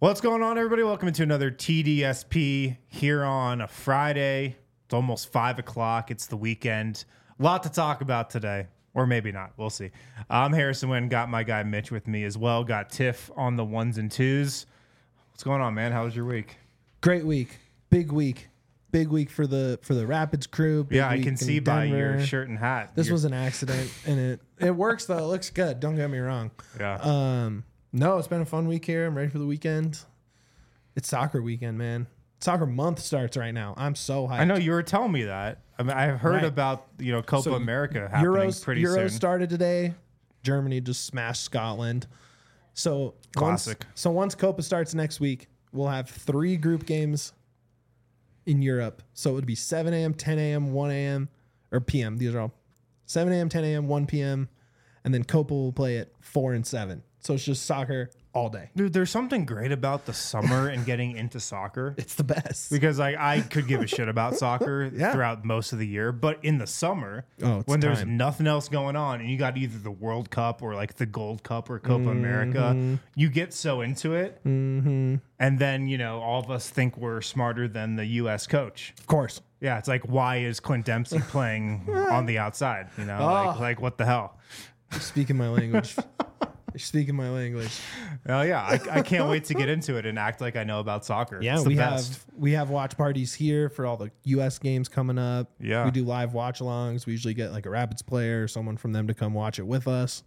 What's going on, everybody? Welcome to another TDSP here on a Friday. It's almost 5 o'clock. It's the weekend. A lot to talk about today, or maybe not. We'll see. I'm Harrison Wynn. Got my guy Mitch with me as well. Got Tiff on the ones and twos. What's going on, man? How was your week? Great week. Big week. Big week for the Rapids crew. Big Yeah, I week can in see by Denver. your shirt and hat. This was an accident, and it works though. It looks good. Don't get me wrong. Yeah. No, it's been a fun week here. I'm ready for the weekend. It's soccer weekend, man. Soccer month starts right now. I'm so hyped. I know you were telling me that. I mean, I've heard Right. about Copa So America happening pretty Euros soon. started today. Germany just smashed Scotland. So Classic. Once Copa starts next week, we'll have 3 group games in Europe. So it would be 7 a.m., 10 a.m., 1 a.m. or p.m. These are all 7 a.m., 10 a.m., 1 p.m. And then Copa will play at 4 and 7. So it's just soccer all day. Dude, there's something great about the summer and getting into soccer. It's the best. Because I could give a shit about soccer Yeah. throughout most of the year, but in the summer, Oh, it's when there's time. nothing else going on, and you got either the World Cup or like the Gold Cup or Copa America, you get so into it, and then all of us think we're smarter than the U.S. coach. Of course. Yeah, it's like, why is Clint Dempsey playing on the outside? Like what the hell? You're speaking my language. You're speaking my language. Oh yeah, I can't wait to get into it and act like I know about soccer. Yeah, It's the best. we have watch parties here for all the U.S. games coming up. Yeah. We do live watch alongs. We usually get like a Rapids player or someone from them to come watch it with us.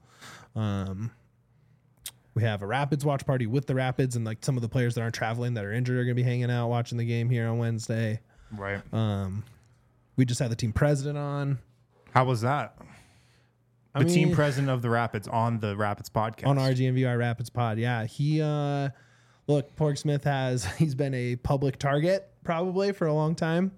We have a Rapids watch party with the Rapids, and like some of the players that aren't traveling that are injured are going to be hanging out watching the game here on Wednesday. Right. We just had the team president on How was that? The team president of the Rapids on the Rapids podcast. on RGMVR Rapids pod. Yeah, he look, Porg Smith he's been a public target probably for a long time.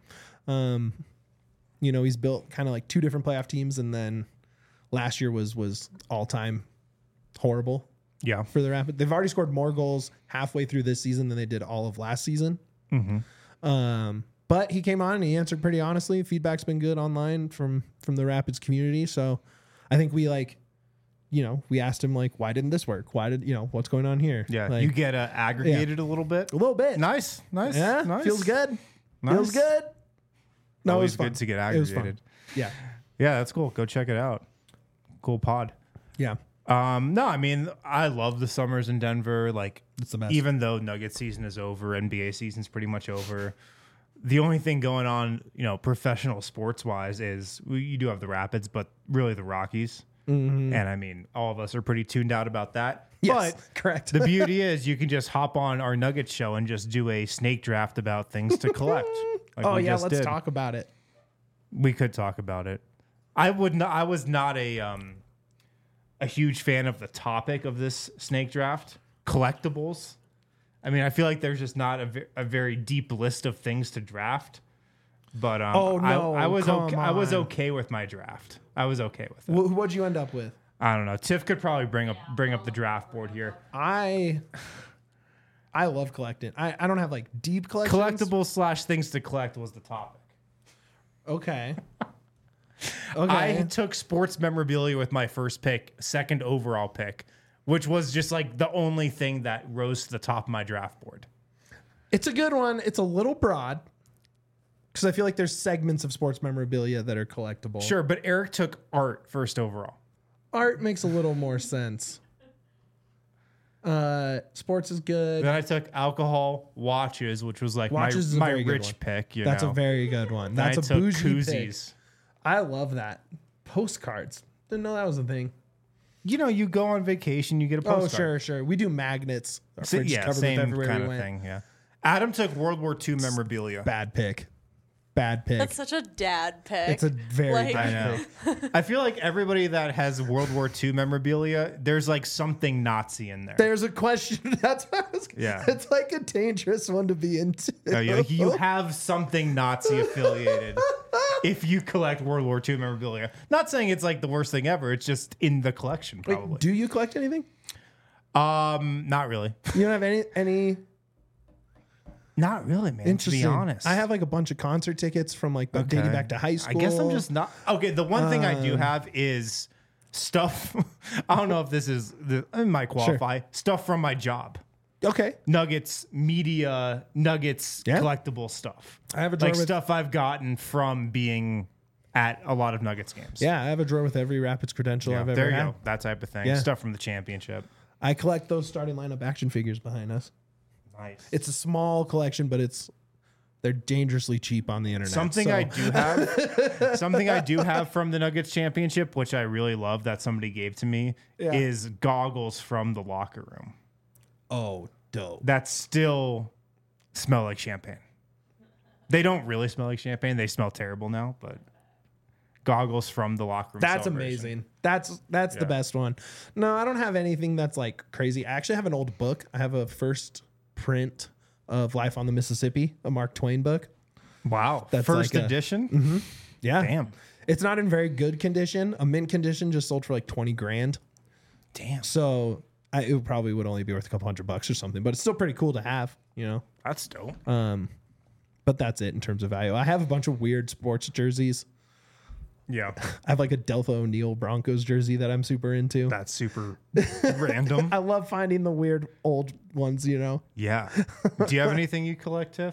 He's built kind of like 2 different playoff teams, and then last year was all time horrible Yeah. for the Rapids. They've already scored more goals halfway through this season than they did all of last season. But he came on and he answered pretty honestly. Feedback's been good online from the Rapids community. So I think we we asked him like, why didn't this work? Why did what's going on here? Yeah. Like, You get aggregated a little bit. a little bit. Nice. Yeah, Nice. feels good. Nice. Feels good. No, Always it was fun. good to get It was fun. aggregated. Yeah. Yeah, that's cool. Go check it out. Cool pod. Yeah. No, I mean, I love the summers in Denver. Like, It's the best. even though Nugget season is over, NBA season's pretty much over. The only thing going on, professional sports wise, is you do have the Rapids, but really the Rockies. And I mean, all of us are pretty tuned out about that. Yes, But correct. the beauty is you can just hop on our Nugget show and just do a snake draft about things to collect. Like Oh we yeah, just let's did. talk about it. We could talk about it. I was not a huge fan of the topic of this snake draft. Collectibles. I mean, I feel like there's just not a very deep list of things to draft. But Oh, no, I was come okay. I was on. okay with my draft. I was okay with it. What'd you end up with? I don't know. Tiff could probably bring up the draft board here. I love collecting. I don't have like deep collections. Collectibles / things to collect was the topic. Okay. I took sports memorabilia with my first pick, second overall pick, which was just like the only thing that rose to the top of my draft board. It's a good one. It's a little broad because I feel like there's segments of sports memorabilia that are collectible. Sure, but Eric took art first overall. Art makes a little more sense. Sports is good. Then I took alcohol, watches, which was like Watches is a my very good rich one. pick. That's a very good one. Then That's I a took bougie pick. koozies. I love that. Postcards. Didn't know that was a thing. You go on vacation, you get a postcard. Oh, sure. We do magnets. Our fridge is Yeah, covered with same everywhere kind we of went. thing. Yeah. Adam took World War II memorabilia. Bad pick. Bad pick. That's such a dad pick. It's a very Like- I bad know. pick. I feel like everybody that has World War II memorabilia, there's like something Nazi in there. There's a question. That's what I was. Yeah. It's like a dangerous one to be into. No, you have something Nazi affiliated if you collect World War II memorabilia. Not saying it's like the worst thing ever. It's just in the collection, probably. Wait, do you collect anything? Not really. You don't have any Not really, man. To interesting. be honest, I have like a bunch of concert tickets from like dating Okay. back to high school. I guess I'm just not okay. The one thing I do have is stuff. I don't know if this is it might qualify stuff from my job. Okay. Nuggets media, Nuggets Yeah. collectible stuff. I have a drawer like with stuff I've gotten from being at a lot of Nuggets games. Yeah, I have a drawer with every Rapids credential I've ever there you had. go. That type of thing. Yeah. Stuff from the championship. I collect those starting lineup action figures behind us. Nice. It's a small collection, but they're dangerously cheap on the internet. Something so- I do have, something I do have from the Nuggets championship, which I really love that somebody gave to me, Yeah. is goggles from the locker room Oh, dope. that still smell like champagne. They don't really smell like champagne. They smell terrible now, but goggles from the locker room. That's celebration. amazing. That's the best one. No, I don't have anything that's like crazy. I actually have an old book. I have a first print of Life on the Mississippi, a Mark Twain book. Wow. That's First like edition? Yeah. Damn. It's not in very good condition. A mint condition just sold for like 20 grand. Damn. So it probably would only be worth a couple $100 or something, but it's still pretty cool to have, you know? That's dope. But that's it in terms of value. I have a bunch of weird sports jerseys. Yeah. I have like a Delta O'Neal Broncos jersey that I'm super into. That's super random. I love finding the weird old ones, you know? Yeah. Do you have anything you collect, Tiff?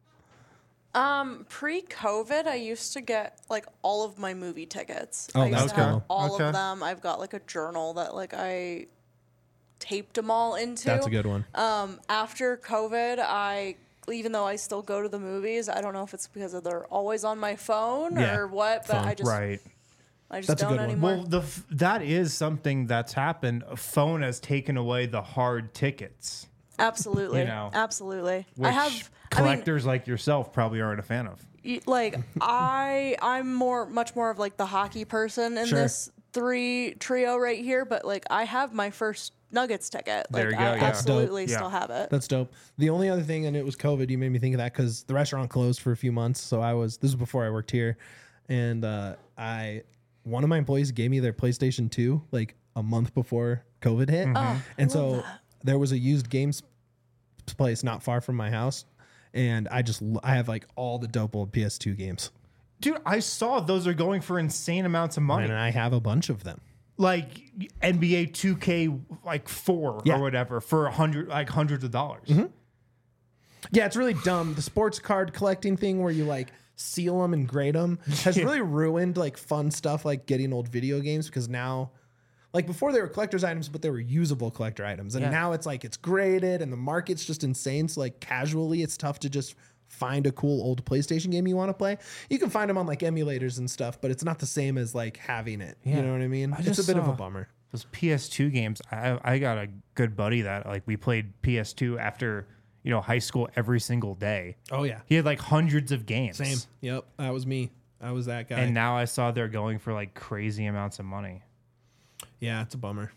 Pre-COVID, I used to get like all of my movie tickets. Oh, I used that's to have cool. all Okay. of them. I've got like a journal that like I taped them all into. That's a good one. After COVID, even though I still go to the movies, I don't know if it's because they're always on my phone Yeah, or what, but phone. I just Right. That's a don't good one. anymore. Well, that is something that's happened. A phone has taken away the hard tickets, Absolutely, you know, absolutely. which I have collectors like yourself probably aren't a fan of. Like I'm much more of like the hockey person in Sure. this trio right here, but like I have my first Nuggets ticket. There Like you go, I yeah. absolutely That's dope. still have it. That's dope. The only other thing, and it was COVID, you made me think of that because the restaurant closed for a few months. So this was before I worked here. And one of my employees gave me their PlayStation 2 like a month before COVID hit. Oh, And I so love that. there was a used games place not far from my house. And I have like all the dope old PS2 games. Dude, I saw those are going for insane amounts of money. And I have a bunch of them. Like NBA 2K like 4 Yeah. or whatever for hundreds of dollars. Yeah, it's really dumb. The sports card collecting thing where you like seal them and grade them has really ruined like fun stuff like getting old video games because now, like before they were collector's items, but they were usable collector items. And Yeah. now it's like it's graded and the market's just insane. So like casually, it's tough to just find a cool old PlayStation game you want to play. You can find them on like emulators and stuff, but it's not the same as like having it. Yeah. You know what I mean? It's a just bit of a saw- bummer. Those PS2 games, I got a good buddy that like we played PS2 after, high school every single day. Oh yeah. He had like hundreds of games. Same. Yep. That was me. I was that guy. And now I saw they're going for like crazy amounts of money. Yeah, it's a bummer.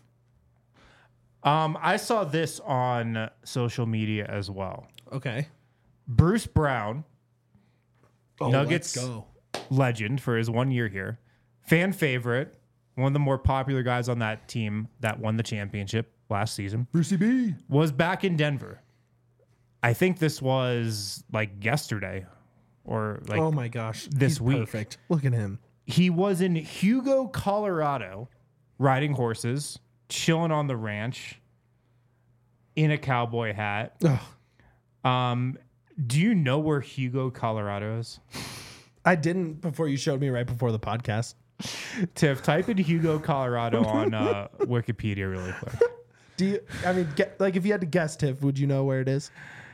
I saw this on social media as well. Okay. Bruce Brown, Nuggets Let's go. legend for his 1 year here, fan favorite, one of the more popular guys on that team that won the championship last season, Brucey B. was back in Denver. I think this was like yesterday or like Oh my gosh. this He's week. Perfect. Look at him. he was in Hugo, Colorado, riding horses, chilling on the ranch in a cowboy hat. Ugh. Do you know where Hugo, Colorado is? I didn't before you showed me right before the podcast. Tiff, type in Hugo, Colorado on Wikipedia really quick. Do you, if you had to guess, Tiff, would you know where it is?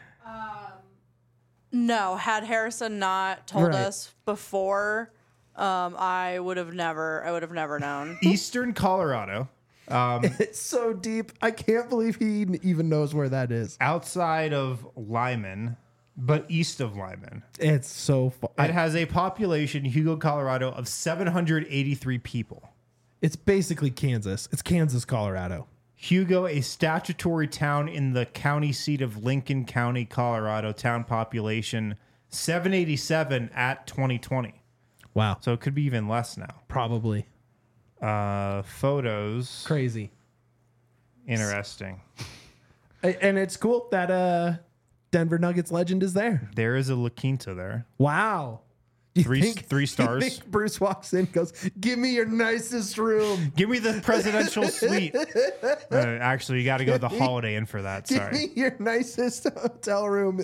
No, had Harrison not told Right. us before, I would have never known. Eastern Colorado, It's so deep. I can't believe he even knows where that is. outside of Lyman, but east of Lyman. It's so far. It has a population, Hugo, Colorado, of 783 people. It's basically Kansas. It's Kansas, Colorado. Hugo, a statutory town in the county seat of Lincoln County, Colorado, town population 787 at 2020. Wow. So it could be even less now. Probably. Photos. Crazy. Interesting. And it's cool that Denver Nuggets legend is there. There is a La Quinta there. Wow. Three You stars. think Bruce walks in, goes, "Give me your nicest room. Give me the presidential suite. Actually, you got to go to the Holiday Inn for that. Give Sorry. me your nicest hotel room."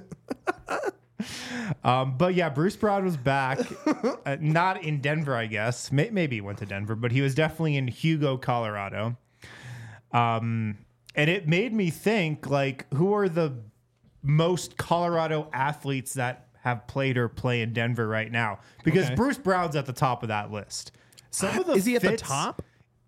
But yeah, Bruce Brown was back. Not in Denver, I guess. Maybe he went to Denver, but he was definitely in Hugo, Colorado. And it made me think, like, who are the most Colorado athletes that have played or play in Denver right now? Because Okay. Bruce Brown's at the top of that list. Some of the Is he at the fits- top?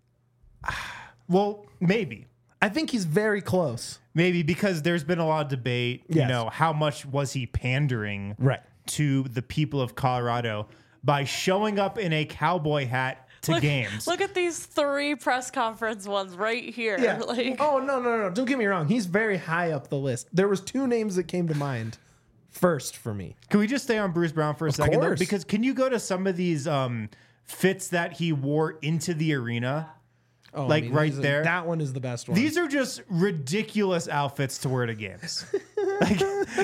Well, maybe. I think he's very close. Maybe because there's been a lot of debate, you Yes. know, how much was he pandering Right. to the people of Colorado by showing up in a cowboy hat to games? Look at these 3 press conference ones right here. Yeah. Like, Oh, no. Don't get me wrong. He's very high up the list. There was 2 names that came to mind first for me. Can we just stay on Bruce Brown for a second? Though? course. Because can you go to some of these fits that he wore into the arena? Oh, Like, right he's there? that one is the best one. These are just ridiculous outfits to wear to games. Like,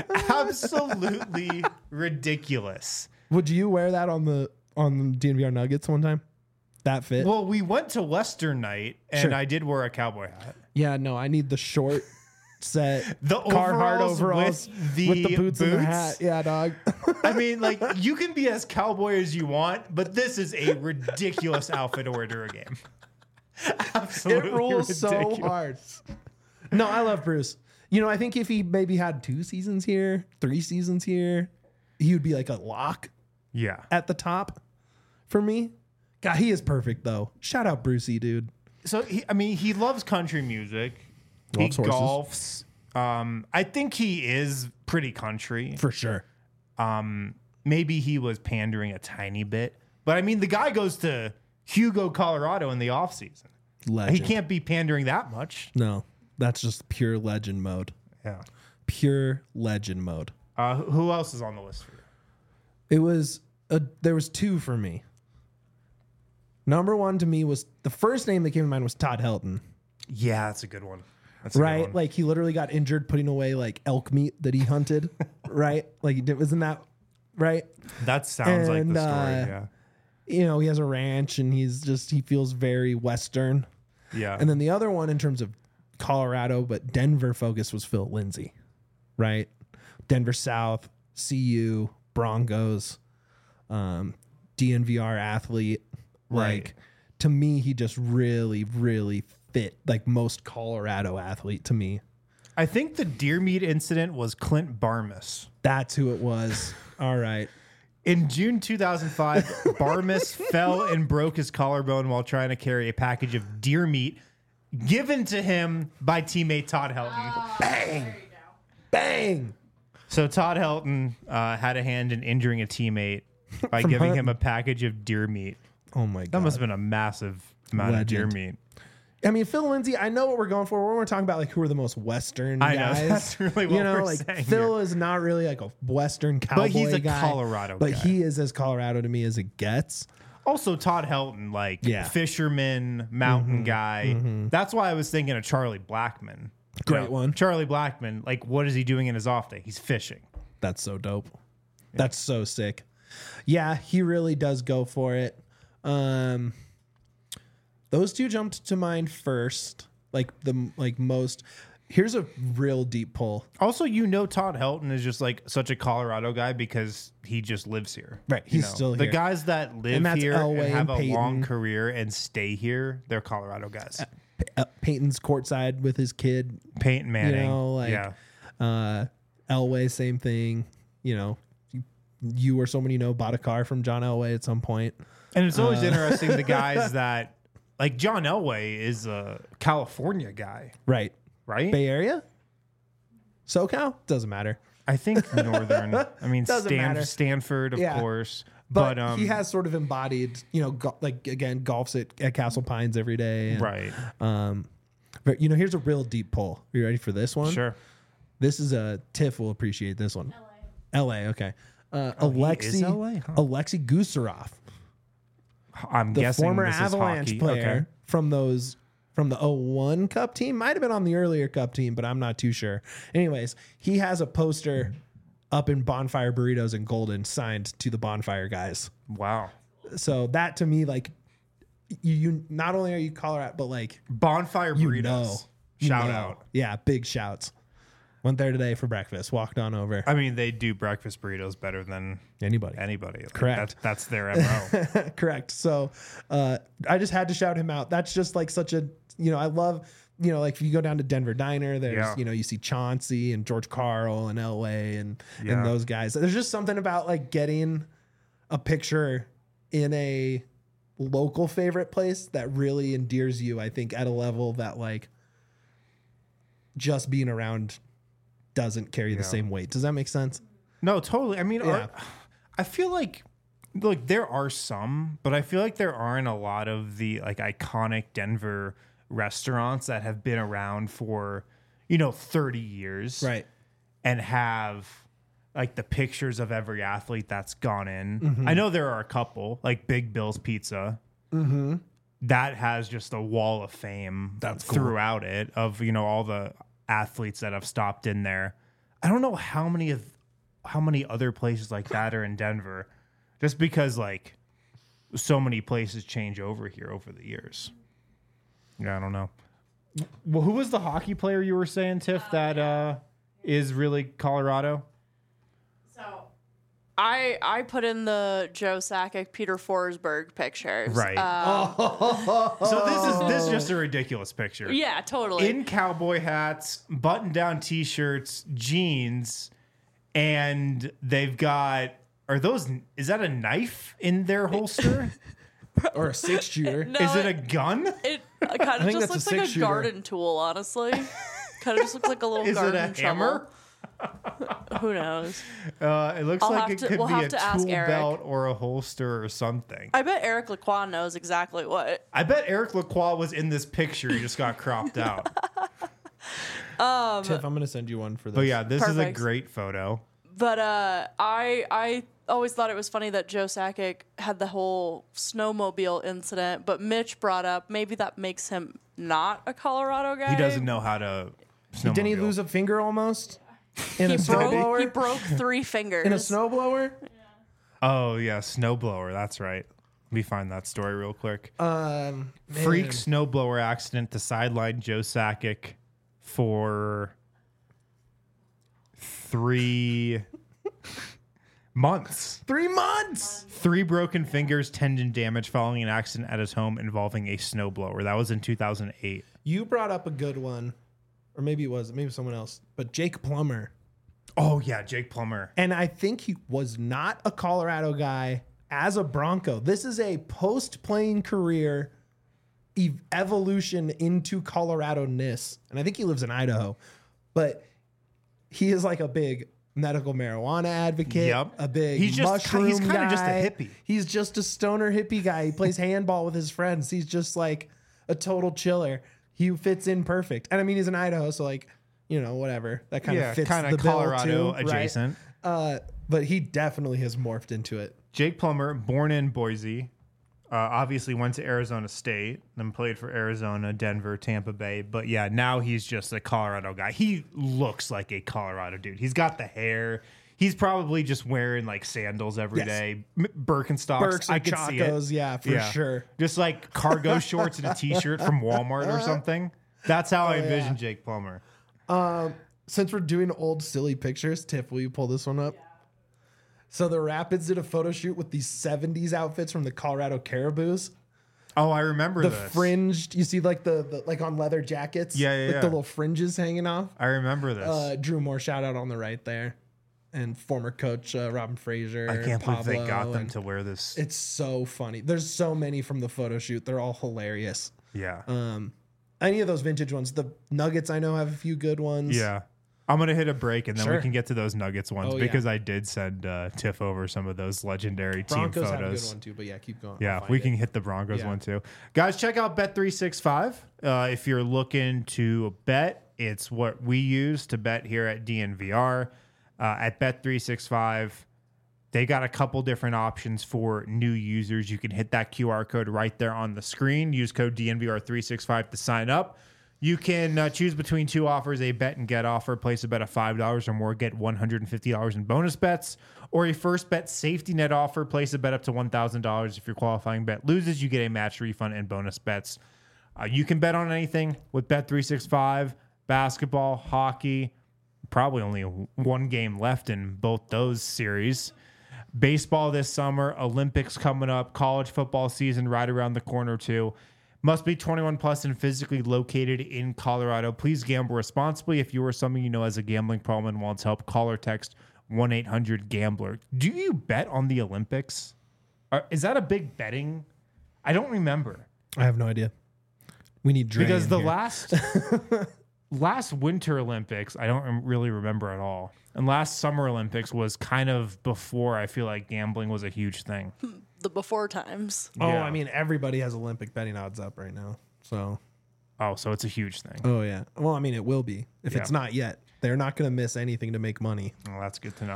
absolutely ridiculous. Would you wear that on the DNVR Nuggets one time? That fit? Well, we went to Western night, and Sure. I did wear a cowboy hat. Yeah, no, I need the short set The Carhartt overalls with the boots and the boots? hat. Yeah, dog. I mean, like, you can be as cowboy as you want, but this is a ridiculous outfit to wear to a game. Absolutely It rules so ridiculous. hard. No, I love Bruce. You know, I think if he maybe had 2 seasons here, 3 seasons here, he would be like a lock Yeah. at the top for me. God, he is perfect though. Shout out Brucey, dude. So, he loves country music. Loves he horses. golfs. I think he is pretty country. For sure. Maybe he was pandering a tiny bit. But, I mean, the guy goes to Hugo, Colorado in the offseason. Legend. He can't be pandering that much. No, that's just pure legend mode. Yeah. Pure legend mode. Who else is on the list for you? There was 2 for me. Number 1 to me was the first name that came to mind was Todd Helton. Yeah, that's a good one. That's a good Right? one. Like he literally got injured putting away like elk meat that he hunted. Right? Like he did, wasn't that right? That sounds like the And, story. Yeah. You know, he has a ranch and he feels very Western. Yeah. And then the other one in terms of Colorado, but Denver focus was Phil Lindsay. Right? Denver South, CU, Broncos, DNVR athlete. Right. Like to me, he just really, really fit like most Colorado athlete to me. I think the deer meat incident was Clint Barmas. That's who it was. All right. In June 2005, Barmas fell and broke his collarbone while trying to carry a package of deer meat given to him by teammate Todd Helton. Bang. Bang. So Todd Helton had a hand in injuring a teammate by giving him a package of deer meat. Oh my God. That must have been a massive amount of deer meat. I mean, Phil Lindsay, I know what we're going for. We're talking about like who are the most Western I know, guys. that's really what you know, we're like saying Phil here. is not really like a Western cowboy But he's a guy, Colorado but guy. he is as Colorado to me as it gets. Also, Todd Helton, like Yeah. fisherman, mountain guy. That's why I was thinking of Charlie Blackman. Great one. Charlie Blackman, like, what is he doing in his off day? He's fishing. That's so dope. That's so sick. Yeah, he really does go for it. Those 2 jumped to mind first. Most. Here's a real deep pull. Also, Todd Helton is just like such a Colorado guy because he just lives here. Right, You he's still The here. guys that live And that's here Elway and have and a long Peyton. career and stay here, they're Colorado guys. Peyton's courtside with his kid. Peyton Manning. You know, like yeah. Elway, same thing. You know, you or someone you know bought a car from John Elway at some point. And it's always interesting the guys that, like John Elway is a California guy, Right. right? Bay Area? SoCal? Doesn't matter. I think northern. I mean, Doesn't matter. Stanford, of Yeah. course. But, But he has sort of embodied, you know, golfs at Castle Pines every day. And, right. But, you know, here's a real deep pull. Are you ready for this one? Sure. This is Tiff will appreciate this one. LA, okay. he is Alexei LA, huh? Alexei Gusarov, I'm the guessing former this is Avalanche hockey. player from the 01 Cup team. Might have been on the earlier Cup team, but I'm not too sure. Anyways, he has a poster up in Bonfire Burritos in Golden, signed to the Bonfire guys. Wow. So that to me, like, you not only are you Colorado, but like Bonfire you burritos. know, Shout you know. out. Yeah, big shouts. Went there today for breakfast. Walked on over. I mean, they do breakfast burritos better than Anybody. anybody. Like, Correct. That's their MO. Correct. So I just had to shout him out. That's just like such a, I love, like if you go down to Denver Diner, there's, Yeah. you see Chauncey and George Carl and Elway and Yeah. those guys. There's just something about like getting a picture in a local favorite place that really endears you, I think, at a level that like just being around doesn't carry the same weight. Does that make sense? No, totally. I mean, Yeah. I feel like there are some, but I feel like there aren't a lot of the like iconic Denver restaurants that have been around for 30 years, Right. and have like the pictures of every athlete that's gone in. Mm-hmm. I know there are a couple, like Big Bill's Pizza. Mm-hmm. That has just a wall of fame That's cool. throughout it of all the athletes that have stopped in there. I don't know how many other places like that are in Denver, just because like so many places change over here over the years. Yeah, I don't know. Well, who was the hockey player you were saying, Tiff, that is really Colorado? So I put in the Joe Sakic, Peter Forsberg pictures. Right. So this is just a ridiculous picture. Yeah, totally. In cowboy hats, button-down T-shirts, jeans, and they've got. Is that a knife in their holster? Or a 6-shooter. No, Is it a gun? It kind of think just that's looks a like a 6-shooter. garden tool, honestly. Kind of just looks like a little Is it garden a shovel. hammer? Who knows? It looks I'll like have it to- could we'll be have a to ask tool Eric. belt or a holster or something. I bet Eric Laquan knows exactly what. I bet Eric Lacroix was in this picture. He just got cropped out. Tiff, I'm going to send you one for this. But yeah, this is a Perfect. great photo. But I always thought it was funny that Joe Sakic had the whole snowmobile incident, but Mitch brought up maybe that makes him not a Colorado guy. He doesn't know how to snowmobile. Didn't he lose a finger almost? In He a broke, snowblower? he broke 3 fingers. In a snowblower? Oh, yeah, snowblower. That's right. Let me find that story real quick. Man. Freak snowblower accident to sideline Joe Sakic for 3 months. 3 months. 3 broken fingers, tendon damage following an accident at his home involving a snowblower. That was in 2008. You brought up a good one. Or maybe it was. Maybe someone else. But Jake Plummer. Oh, yeah, Jake Plummer. And I think he was not a Colorado guy as a Bronco. This is a post-playing career evolution into Colorado-ness. And I think he lives in Idaho. But he is like a big medical marijuana advocate, Yep. a big He's just- mushroom he's kinda guy. just a hippie. He's just a stoner hippie guy. He plays handball with his friends. He's just like a total chiller. He fits in perfect. And I mean, he's in Idaho, so like, whatever. That kind of fits kind the of bill Colorado too, right? adjacent. But he definitely has morphed into it. Jake Plummer, born in Boise, obviously went to Arizona State, then played for Arizona, Denver, Tampa Bay. But yeah, now he's just a Colorado guy. He looks like a Colorado dude. He's got the hair. He's probably just wearing like sandals every Yes. day, Birkenstocks. Burks I and could see it. Chacos, yeah, for sure. Just like cargo shorts and a t-shirt from Walmart or something. That's how I envision Jake Plummer. Since we're doing old silly pictures, Tiff, will you pull this one up? So the Rapids did a photo shoot with these 70s outfits from the Colorado Caribous. Oh, I remember The this. fringed, you see like the like on leather jackets? Yeah, yeah, Like yeah. the little fringes hanging off. I remember this. Drew Moore shout out on the right there. And former coach Robin Fraser. I can't believe they Pablo, got them and to wear this. It's so funny. There's so many from the photo shoot. They're all hilarious. Yeah. Any of those vintage ones. The Nuggets I know have a few good ones. Yeah. I'm going to hit a break and then we Sure. can get to those Nuggets ones Oh, yeah. because I did send Tiff over some of those legendary Broncos team have a good photos. one too, but yeah, keep going. Yeah, I'll find we it. can hit the Broncos Yeah. one too. Guys, check out Bet365. If you're looking to bet, it's what we use to bet here at DNVR. At Bet365, they got a couple different options for new users. You can hit that QR code right there on the screen. Use code DNVR365 to sign up. You can choose between two offers: a bet and get offer. Place a bet of $5 or more, get $150 in bonus bets, or a first bet safety net offer. Place a bet up to $1,000. If your qualifying bet loses, you get a match refund and bonus bets. You can bet on anything with Bet365, basketball, hockey. Probably only one game left in both those series. Baseball this summer, Olympics coming up, college football season right around the corner too. Must be 21 plus and physically located in Colorado. Please gamble responsibly. If you or someone you know has a gambling problem and wants help, call or text 1-800-GAMBLER. Do you bet on the Olympics? Is that a big betting? I don't remember. I have no idea. We need Dre Because in the here. last Winter Olympics, I don't really remember at all. And last Summer Olympics was kind of before I feel like gambling was a huge thing. The before times. Oh, Yeah. I mean, everybody has Olympic betting odds up right now. So, Oh, so it's a huge thing. oh yeah. Well, I mean, it will be if Yeah. it's not yet. They're not going to miss anything to make money. Well, that's good to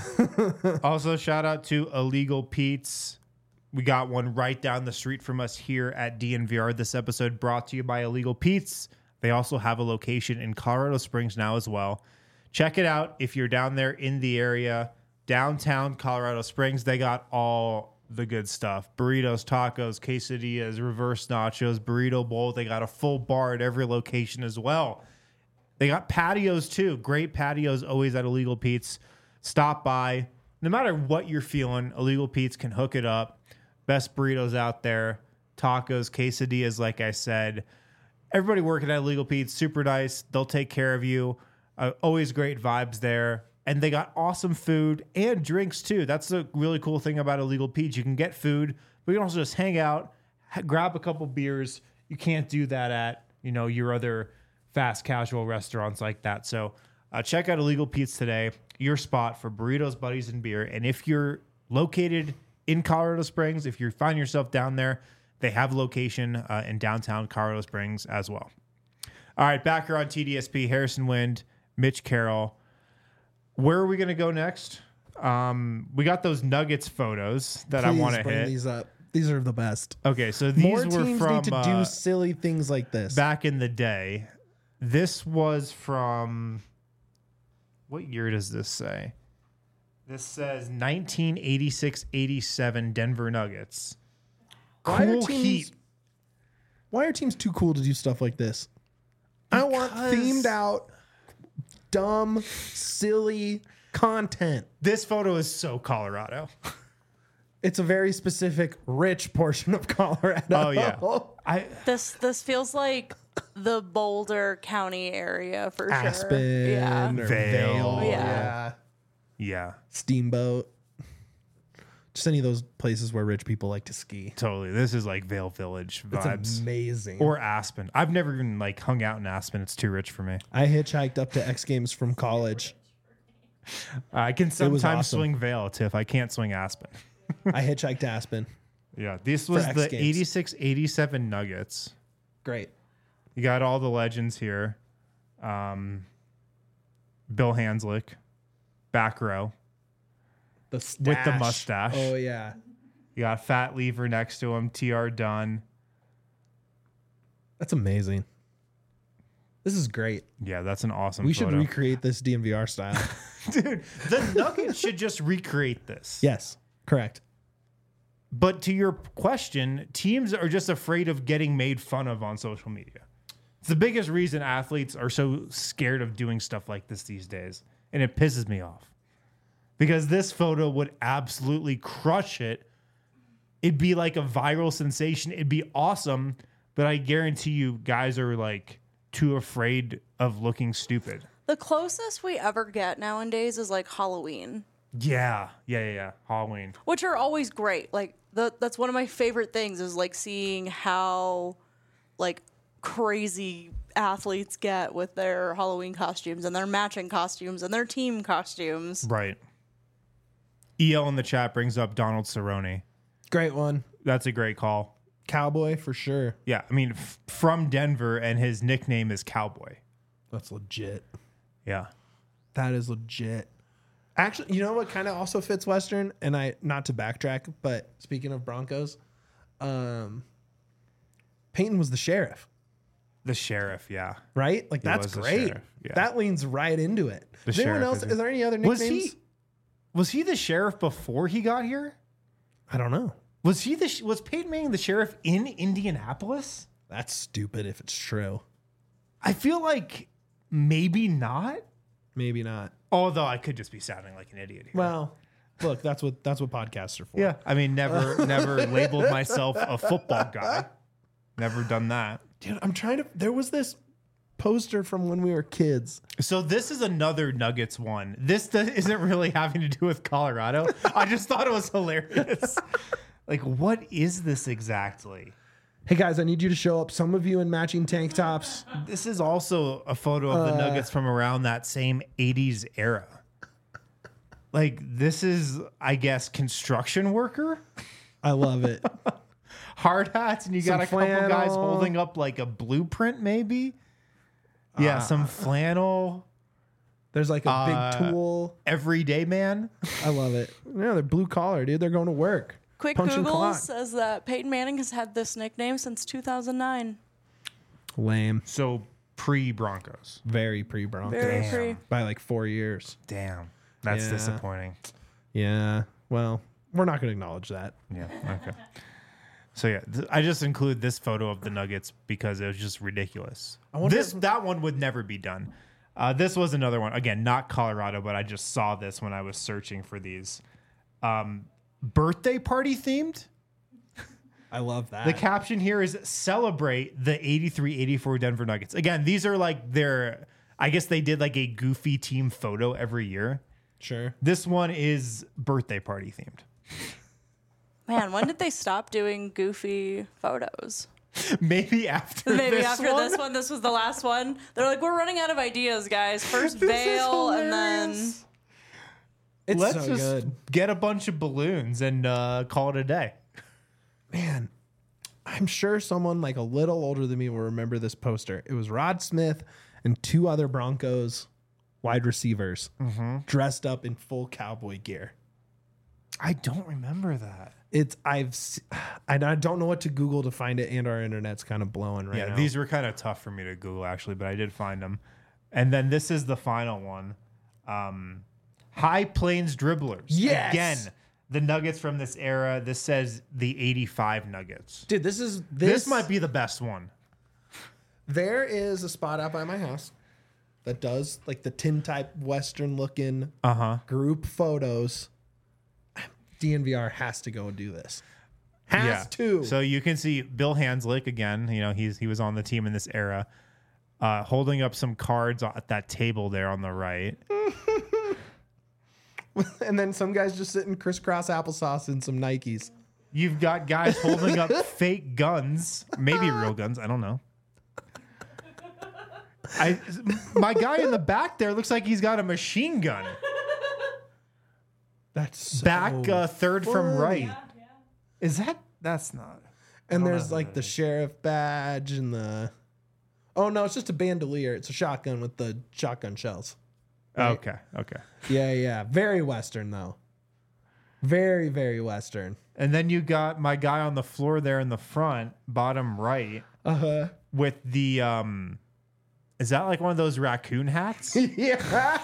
know. Also, shout out to Illegal Pete's. We got one right down the street from us here at DNVR. This episode brought to you by Illegal Pete's. They also have a location in Colorado Springs now as well. Check it out if you're down there in the area. Downtown Colorado Springs, they got all the good stuff. Burritos, tacos, quesadillas, reverse nachos, burrito bowl. They got a full bar at every location as well. They got patios too. Great patios always at Illegal Pete's. Stop by. No matter what you're feeling, Illegal Pete's can hook it up. Best burritos out there. Tacos, quesadillas, like I said. Everybody working at Illegal Pete's, super nice. They'll take care of you. Always great vibes there. And they got awesome food and drinks too. That's the really cool thing about Illegal Pete's. You can get food, but you can also just hang out, grab a couple beers. You can't do that at, your other fast casual restaurants like that. So check out Illegal Pete's today, your spot for burritos, buddies, and beer. And if you're located in Colorado Springs, if you find yourself down there, they have a location in downtown Colorado Springs as well. All right, back here on TDSP, Harrison Wind, Mitch Carroll. Where are we going to go next? We got those Nuggets photos that I want to bring hit. these up. These are the best. Okay, so these More were teams from need to do silly things like this. back in the day. This was from, what year does this say? This says 1986-87 Denver Nuggets. Cool Heat. Why are teams too cool to do stuff like this? I want themed out, dumb, silly content. This photo is so Colorado. It's a very specific, rich portion of Colorado. Oh, yeah. This feels like the Boulder County area for sure. Aspen, Yeah. or Vail. Vail. Yeah. Yeah, Steamboat. Just any of those places where rich people like to ski. totally. This is like Vail Village It's vibes. amazing. Or Aspen. I've never even hung out in Aspen. It's too rich for me. I hitchhiked up to X Games from college. I can was sometimes awesome. swing Vail too if I can't swing Aspen. I hitchhiked to Aspen. Yeah, this was X the Games. 86-87 Nuggets. Great. You got all the legends here. Bill Hanslick, back row. The With the stash. mustache. Oh, yeah. You got Fat Lever next to him, TR Dunn. That's amazing. This is great. Yeah, that's an awesome We photo. should recreate this DMVR style. Dude, the Nuggets should just recreate this. Yes, correct. But to your question, teams are just afraid of getting made fun of on social media. It's the biggest reason athletes are so scared of doing stuff like this these days. And it pisses me off. Because this photo would absolutely crush it. It'd be like a viral sensation. It'd be awesome. But I guarantee you guys are too afraid of looking stupid. The closest we ever get nowadays is Halloween, Yeah. Halloween. which are always great. That's one of my favorite things is seeing how crazy athletes get with their Halloween costumes and their matching costumes and their team costumes. Right. EL in the chat brings up Donald Cerrone. Great one. That's a great call. Cowboy for sure. Yeah, I mean, from Denver, and his nickname is Cowboy. That's legit. Yeah. That is legit. Actually, you know what kind of also fits Western? And not to backtrack, but speaking of Broncos, Peyton was the sheriff. The sheriff, yeah. right? Like that's was the great. sheriff, yeah. That leans right into it. The Is anyone sheriff else? is Is there any other Was nicknames? was he the sheriff before he got here? I don't know. Was was Peyton Manning the sheriff in Indianapolis? That's stupid if it's true. I feel like maybe not. Maybe not. Although I could just be sounding like an idiot here. Well, look, that's what podcasts are for. yeah, I mean, never labeled myself a football guy. Never done that. Dude, I'm trying to. There was this poster from when we were kids. So this is another Nuggets one. This isn't really having to do with Colorado. I just thought it was hilarious. Like, what is this exactly? Hey guys, I need you to show up. Some of you in matching tank tops. This is also a photo of the Nuggets from around that same 80s era. Like, this is, I guess, construction worker. I love it. Hard hats, and you got Some a couple guys flannel. holding up like a blueprint, maybe. Yeah, some flannel. There's like a big tool. Everyday man. I love it. Yeah, they're blue collar, dude. They're going to work. Quick Punching Google clock. says that Peyton Manning has had this nickname since 2009. Lame. So pre-Broncos. Very pre-Broncos. Very pre. By like 4 years. Damn, that's Yeah. disappointing. Yeah. Well, we're not going to acknowledge that. Yeah. Okay. So yeah, I just include this photo of the Nuggets because it was just ridiculous. wonder That one would never be done. This was another one. Again, not Colorado, but I just saw this when I was searching for these. Birthday party themed. I love that. The caption here is celebrate the 83-84 Denver Nuggets. Again, these are like I guess they did like a goofy team photo every year. Sure. This one is birthday party themed. Man, when did they stop doing goofy photos? Maybe after Maybe this after one? this one, this was the last one. They're like, we're running out of ideas, guys. First This is veil, and then hilarious. It's Let's so just good. get a bunch of balloons and call it a day. Man, I'm sure someone like a little older than me will remember this poster. It was Rod Smith and two other Broncos wide receivers dressed up in full cowboy gear. I don't remember that. I don't know what to Google to find it, and our internet's kind of blowing right now. These were kind of tough for me to Google, actually, but I did find them. And then this is the final one. High Plains Dribblers. Yes! Again, the Nuggets from this era. This says the 85 Nuggets. Dude, This might be the best one. There is a spot out by my house that does like the tin type Western looking group photos. DNVR has to go and do this. Has to. So you can see Bill Hanslick again. You know, he was on the team in this era, holding up some cards at that table there on the right. And then some guys just sitting crisscross applesauce in some Nikes. You've got guys holding up fake guns, maybe real guns. I don't know. My guy in the back there looks like he's got a machine gun. That's so Back third from funny. right. Is that? That's not. And there's like the sheriff badge and the. Oh no, it's just a bandolier. It's a shotgun with the shotgun shells. Right? Okay. Yeah. Very Western though. Very, very Western. And then you got my guy on the floor there in the front, bottom right, with the is that like one of those raccoon hats? Yeah.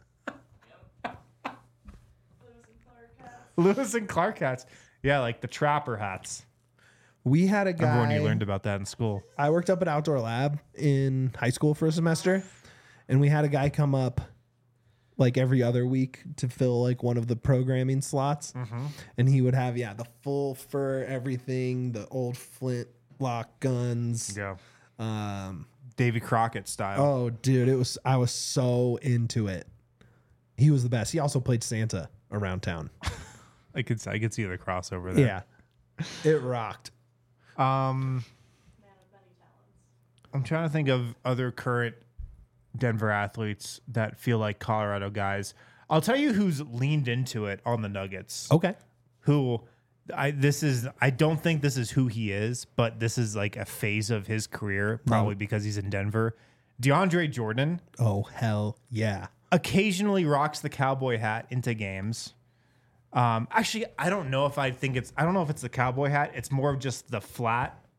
Lewis and Clark hats. Yeah, like the trapper hats. We had a guy. Remember when you learned about that in school? I worked up at Outdoor Lab in high school for a semester, and we had a guy come up like every other week to fill like one of the programming slots. And he would have, the full fur, everything, the old flintlock guns. Yeah. Um, Davy Crockett style. oh, dude, I was so into it. He was the best. He also played Santa around town. I could see the crossover there. Yeah. It rocked. I'm trying to think of other current Denver athletes that feel like Colorado guys. I'll tell you who's leaned into it on the Nuggets. Okay. I don't think this is who he is, but this is like a phase of his career, probably because he's in Denver. DeAndre Jordan Oh, hell yeah. occasionally rocks the cowboy hat into games. Actually, I don't know if it's the cowboy hat. It's more of just the flat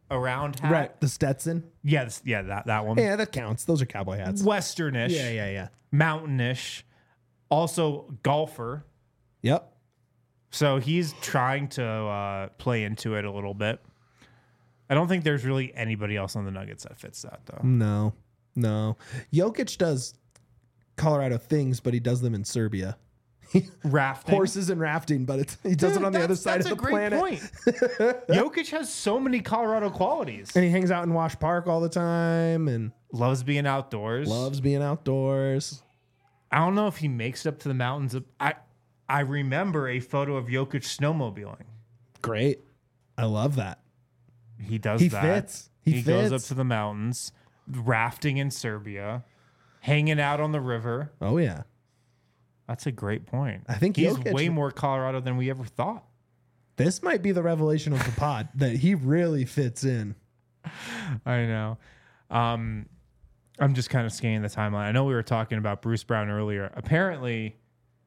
around hat. Right. The Stetson. Yeah, that one. Yeah, that counts. Those are cowboy hats. Westernish. Yeah. Mountainish. Also golfer. Yep. So he's trying to play into it a little bit. I don't think there's really anybody else on the Nuggets that fits that, though. No. Jokic does Colorado things, but he does them in Serbia. Rafting. Horses and rafting, but he does it on the other side of the planet. That's a great point. Jokic has so many Colorado qualities. And he hangs out in Wash Park all the time and Loves being outdoors. loves being outdoors. I don't know if he makes it up to the mountains. I remember a photo of Jokic snowmobiling. Great. I love that. He does He that. fits. He goes up fits. to the mountains, rafting in Serbia, hanging out on the river. Oh, yeah. That's a great point. I think he's Jokic- way more Colorado than we ever thought. This might be the revelation of the pod that he really fits in. I know. I'm just kind of scanning the timeline. I know we were talking about Bruce Brown earlier. Apparently,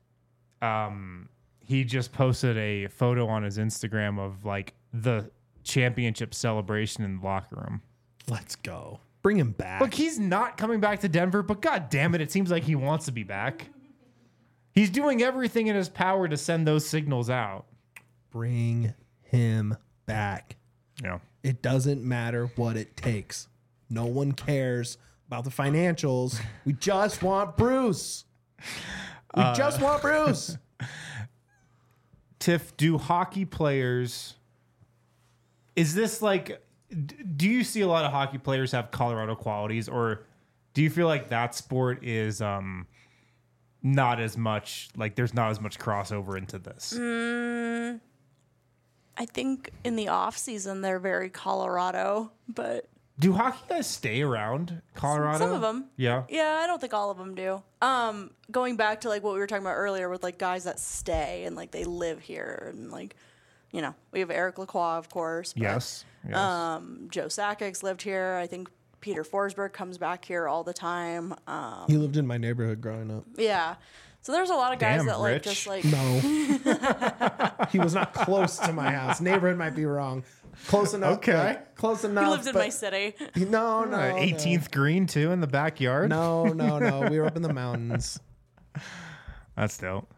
he just posted a photo on his Instagram of like the championship celebration in the locker room. Let's go. Bring him back. Look, he's not coming back to Denver, but god damn it seems like he wants to be back. He's doing everything in his power to send those signals out. Bring him back. Yeah. It doesn't matter what it takes. No one cares about the financials. We just want Bruce. We just want Bruce. Tiff, do hockey players... Is this like... Do you see a lot of hockey players have Colorado qualities, or do you feel like that sport is not as much, like there's not as much crossover into this? I think in the off season they're very Colorado, but Do hockey guys stay around Colorado? some of them. Yeah. Yeah, I don't think all of them do. Going back to like what we were talking about earlier with like guys that stay and like they live here and like, you know, we have Eric Lacroix, of course. But, Yes. Joe Sakic's lived here. I think Peter Forsberg comes back here all the time. He lived in my neighborhood growing up. Yeah. So there's a lot of guys Damn, that like Rich. just like No. He was not close to my house. Neighborhood might be wrong. Close enough. Okay. like, close enough. he lived in but- my city. No. 18th green too in the backyard. No. We were up in the mountains. That's dope.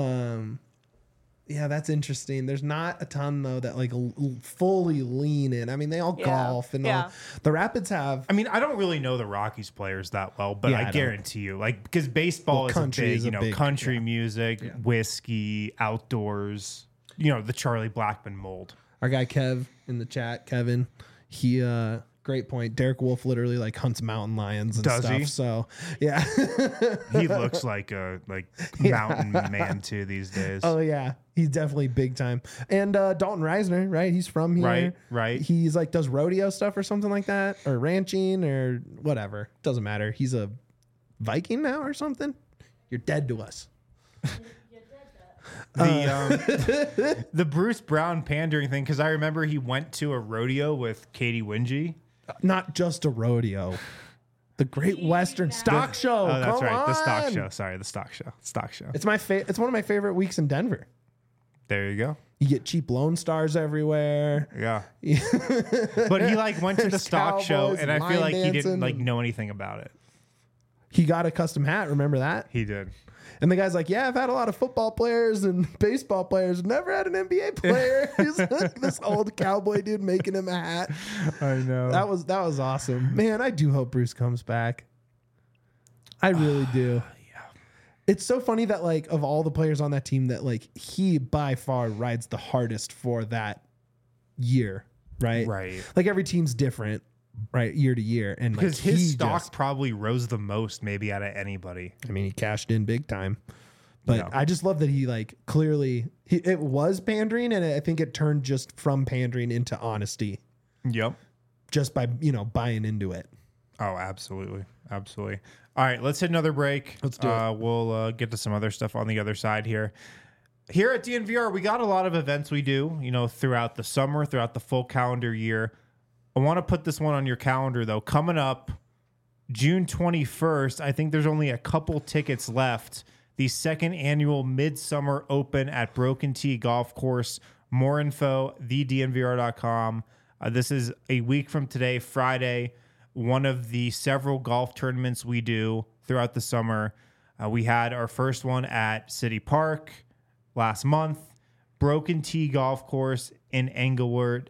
Yeah, that's interesting. There's not a ton though that like fully lean in. I mean, they all Yeah. golf and Yeah. all. The Rapids have I mean, I don't really know the Rockies players that well, but Yeah, I I don't. guarantee you, like, because baseball Well, is a country big, is a you know, big- country yeah. music, whiskey, outdoors, you know, the Charlie Blackmon mold. our guy Kev in the chat. Kevin, he great point. Derek Wolf literally like hunts mountain lions and Does stuff. he? So yeah. He looks like a mountain man too these days. Oh yeah, he's definitely big time. And Dalton Reisner, right? He's from here. Right. He's like does rodeo stuff or something like that, or ranching or whatever. Doesn't matter. He's a Viking now or something. You're dead to us. The Bruce Brown pandering thing, because I remember he went to a rodeo with Katie Wingy. Not just a rodeo. The Great Western Stock Show. Oh, that's Come right. The stock on. show. Sorry, the stock show. Stock show. It's it's one of my favorite weeks in Denver. There you go. You get cheap Lone Stars everywhere. Yeah. But he like went to the There's stock show, cowboys and I feel line like he didn't dancing like and- know anything about it. He got a custom hat. Remember that? He did. And the guy's like, yeah, I've had a lot of football players and baseball players. Never had an NBA player. He's like this old cowboy dude making him a hat. I know. That was awesome. Man, I do hope Bruce comes back. I really do. Yeah. It's so funny that like of all the players on that team that like he by far rides the hardest for that year, right? Right. Like every team's different, right, year to year, and like Because his he stock just- probably rose the most, maybe out of anybody. I mean, he cashed in big time. But Yeah. I just love that he like clearly it was pandering, and I think it turned just from pandering into honesty Yep. just by buying into it. Oh, absolutely. Absolutely. All right, let's hit another break. Let's do it. We'll get to some other stuff on the other side here. Here at DNVR, we got a lot of events we do, throughout the summer, throughout the full calendar year. I want to put this one on your calendar, though. Coming up June 21st, I think there's only a couple tickets left. The second annual Midsummer Open at Broken Tee Golf Course. More info, thednvr.com. This is a week from today, Friday, one of the several golf tournaments we do throughout the summer. We had our first one at City Park last month, Broken Tee Golf Course in Englewood.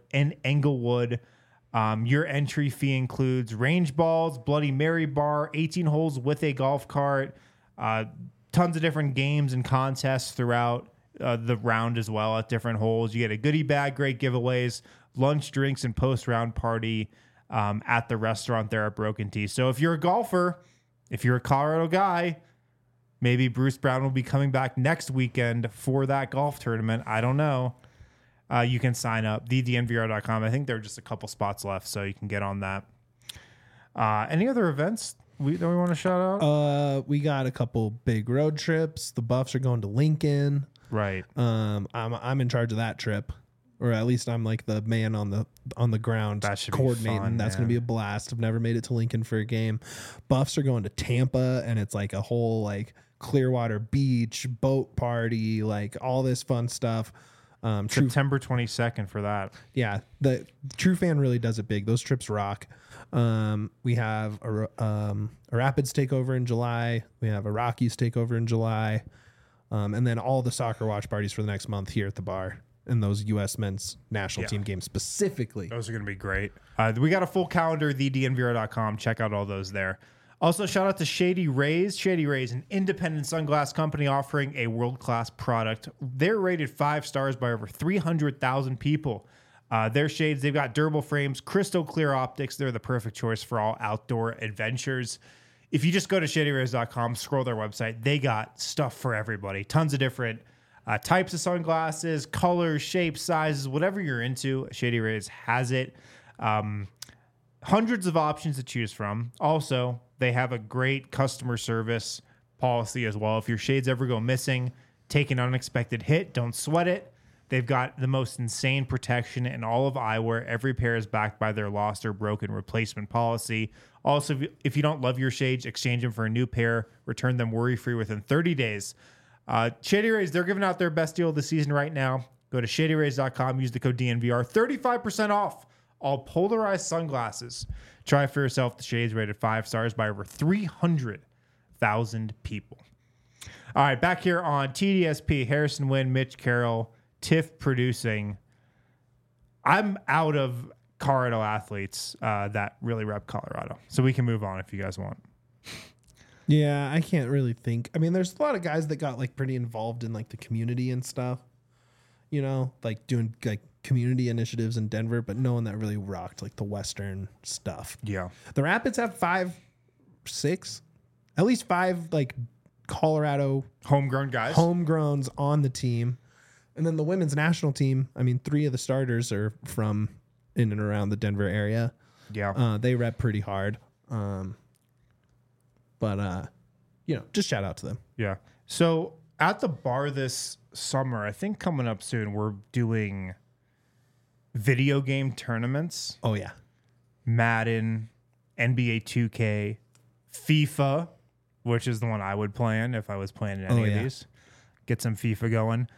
Your entry fee includes range balls, Bloody Mary bar, 18 holes with a golf cart, tons of different games and contests throughout the round as well at different holes. You get a goodie bag, great giveaways, lunch, drinks, and post-round party at the restaurant there at Broken Tee. So if you're a golfer, if you're a Colorado guy, maybe Bruce Brown will be coming back next weekend for that golf tournament. I don't know. You can sign up, thednvr.com. I think there are just a couple spots left, so you can get on that. Any other events that we want to shout out? We got a couple big road trips. The Buffs are going to Lincoln. Right. I'm in charge of that trip, or at least I'm like the man on the ground That should be coordinating. fun, That's going to be a blast. I've never made it to Lincoln for a game. Buffs are going to Tampa, and it's like a whole like Clearwater Beach boat party, like all this fun stuff. September 22nd for that. Yeah, the True Fan really does it big. Those trips rock. We have a Rapids takeover in July. We have a Rockies takeover in July. And then all the soccer watch parties for the next month here at the bar, and those U.S. men's national team games specifically. Those are going to be great. We got a full calendar, thednvr.com. Check out all those there. Also, shout out to Shady Rays. Shady Rays, an independent sunglass company offering a world-class product. They're rated 5 stars by over 300,000 people. Their shades, they've got durable frames, crystal clear optics. They're the perfect choice for all outdoor adventures. If you just go to shadyrays.com, scroll their website, they got stuff for everybody. Tons of different types of sunglasses, colors, shapes, sizes, whatever you're into. Shady Rays has it. Hundreds of options to choose from. Also, they have a great customer service policy as well. If your shades ever go missing, take an unexpected hit, don't sweat it. They've got the most insane protection in all of eyewear. Every pair is backed by their lost or broken replacement policy. Also, if you don't love your shades, exchange them for a new pair. Return them worry-free within 30 days. Shady Rays, they're giving out their best deal of the season right now. Go to shadyrays.com, use the code DNVR, 35% off all polarized sunglasses. Try for yourself the shades rated 5 stars by over 300,000 people. All right, back here on TDSP, Harrison Wind, Mitch Carroll, Tiff producing. I'm out of Colorado athletes that really rep Colorado, so we can move on if you guys want. Yeah, I can't really think. I mean, there's a lot of guys that got like pretty involved in like the community and stuff, you know, like doing like community initiatives in Denver, but no one that really rocked like the Western stuff. Yeah. The Rapids have 5, 6, at least 5 like Colorado Homegrown guys. homegrowns on the team. And then the women's national team, I mean, 3 of the starters are from in and around the Denver area. Yeah. They rep pretty hard. But you know, just shout out to them. Yeah. So at the bar this summer, I think coming up soon, we're doing video game tournaments. Oh, yeah. Madden, NBA 2K, FIFA, which is the one I would play in if I was playing in any of these. Get some FIFA going.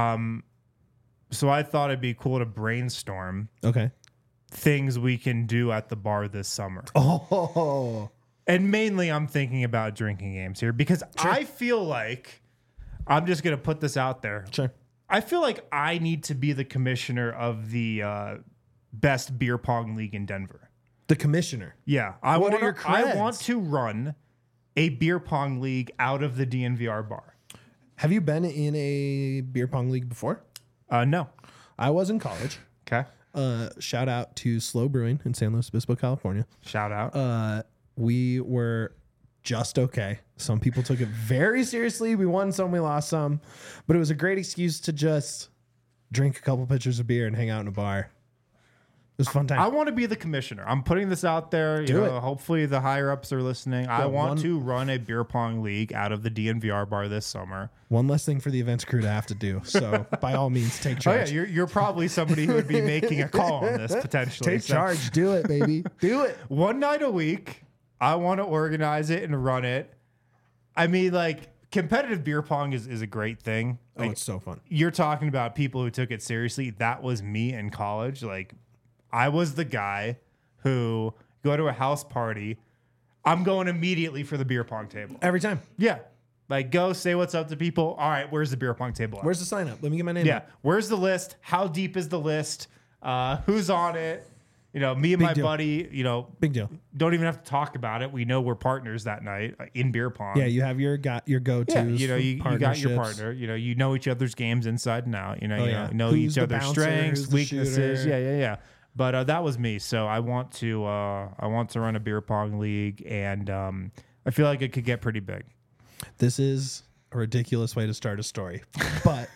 So I thought it'd be cool to brainstorm things we can do at the bar this summer. Oh. And mainly I'm thinking about drinking games here because I feel like, I'm just going to put this out there. Sure. I feel like I need to be the commissioner of the best beer pong league in Denver. The commissioner. Yeah. I want to run a beer pong league out of the DNVR bar. Have you been in a beer pong league before? No. I was in college. Okay. Shout out to Slow Brewing in San Luis Obispo, California. Shout out. We were just okay. Some people took it very seriously. We won some, we lost some, but it was a great excuse to just drink a couple pitchers of beer and hang out in a bar. It was a fun time. I want to be the commissioner. I'm putting this out there. Do it. Hopefully the higher ups are listening. I want to run a beer pong league out of the DNVR bar this summer. One less thing for the events crew to have to do. So by all means, take charge. Oh yeah, you're probably somebody who would be making a call on this potentially. Take charge. Do it, baby. Do it. One night a week, I want to organize it and run it. I mean, like, competitive beer pong is a great thing. Like, Oh, it's so fun. You're talking about people who took it seriously. That was me in college. Like, I was the guy who go to a house party. I'm going immediately for the beer pong table. Every time. Yeah. Like, go say what's up to people. All right, where's the beer pong table at? Where's the sign up? Let me get my name. Yeah. up. Where's the list? How deep is the list? Who's on it? You know, me and my deal. buddy, you know, Big deal. don't even have to talk about it. We know we're partners that night in beer pong. Yeah, you have your go-tos. Yeah, you know, you got your partnerships. partner. You know each other's games inside and out. You know, yeah. you know Who's each the other's bouncer, strengths, who's the weaknesses. shooter. Yeah. But that was me. So I want to run a beer pong league, and I feel like it could get pretty big. This is a ridiculous way to start a story, but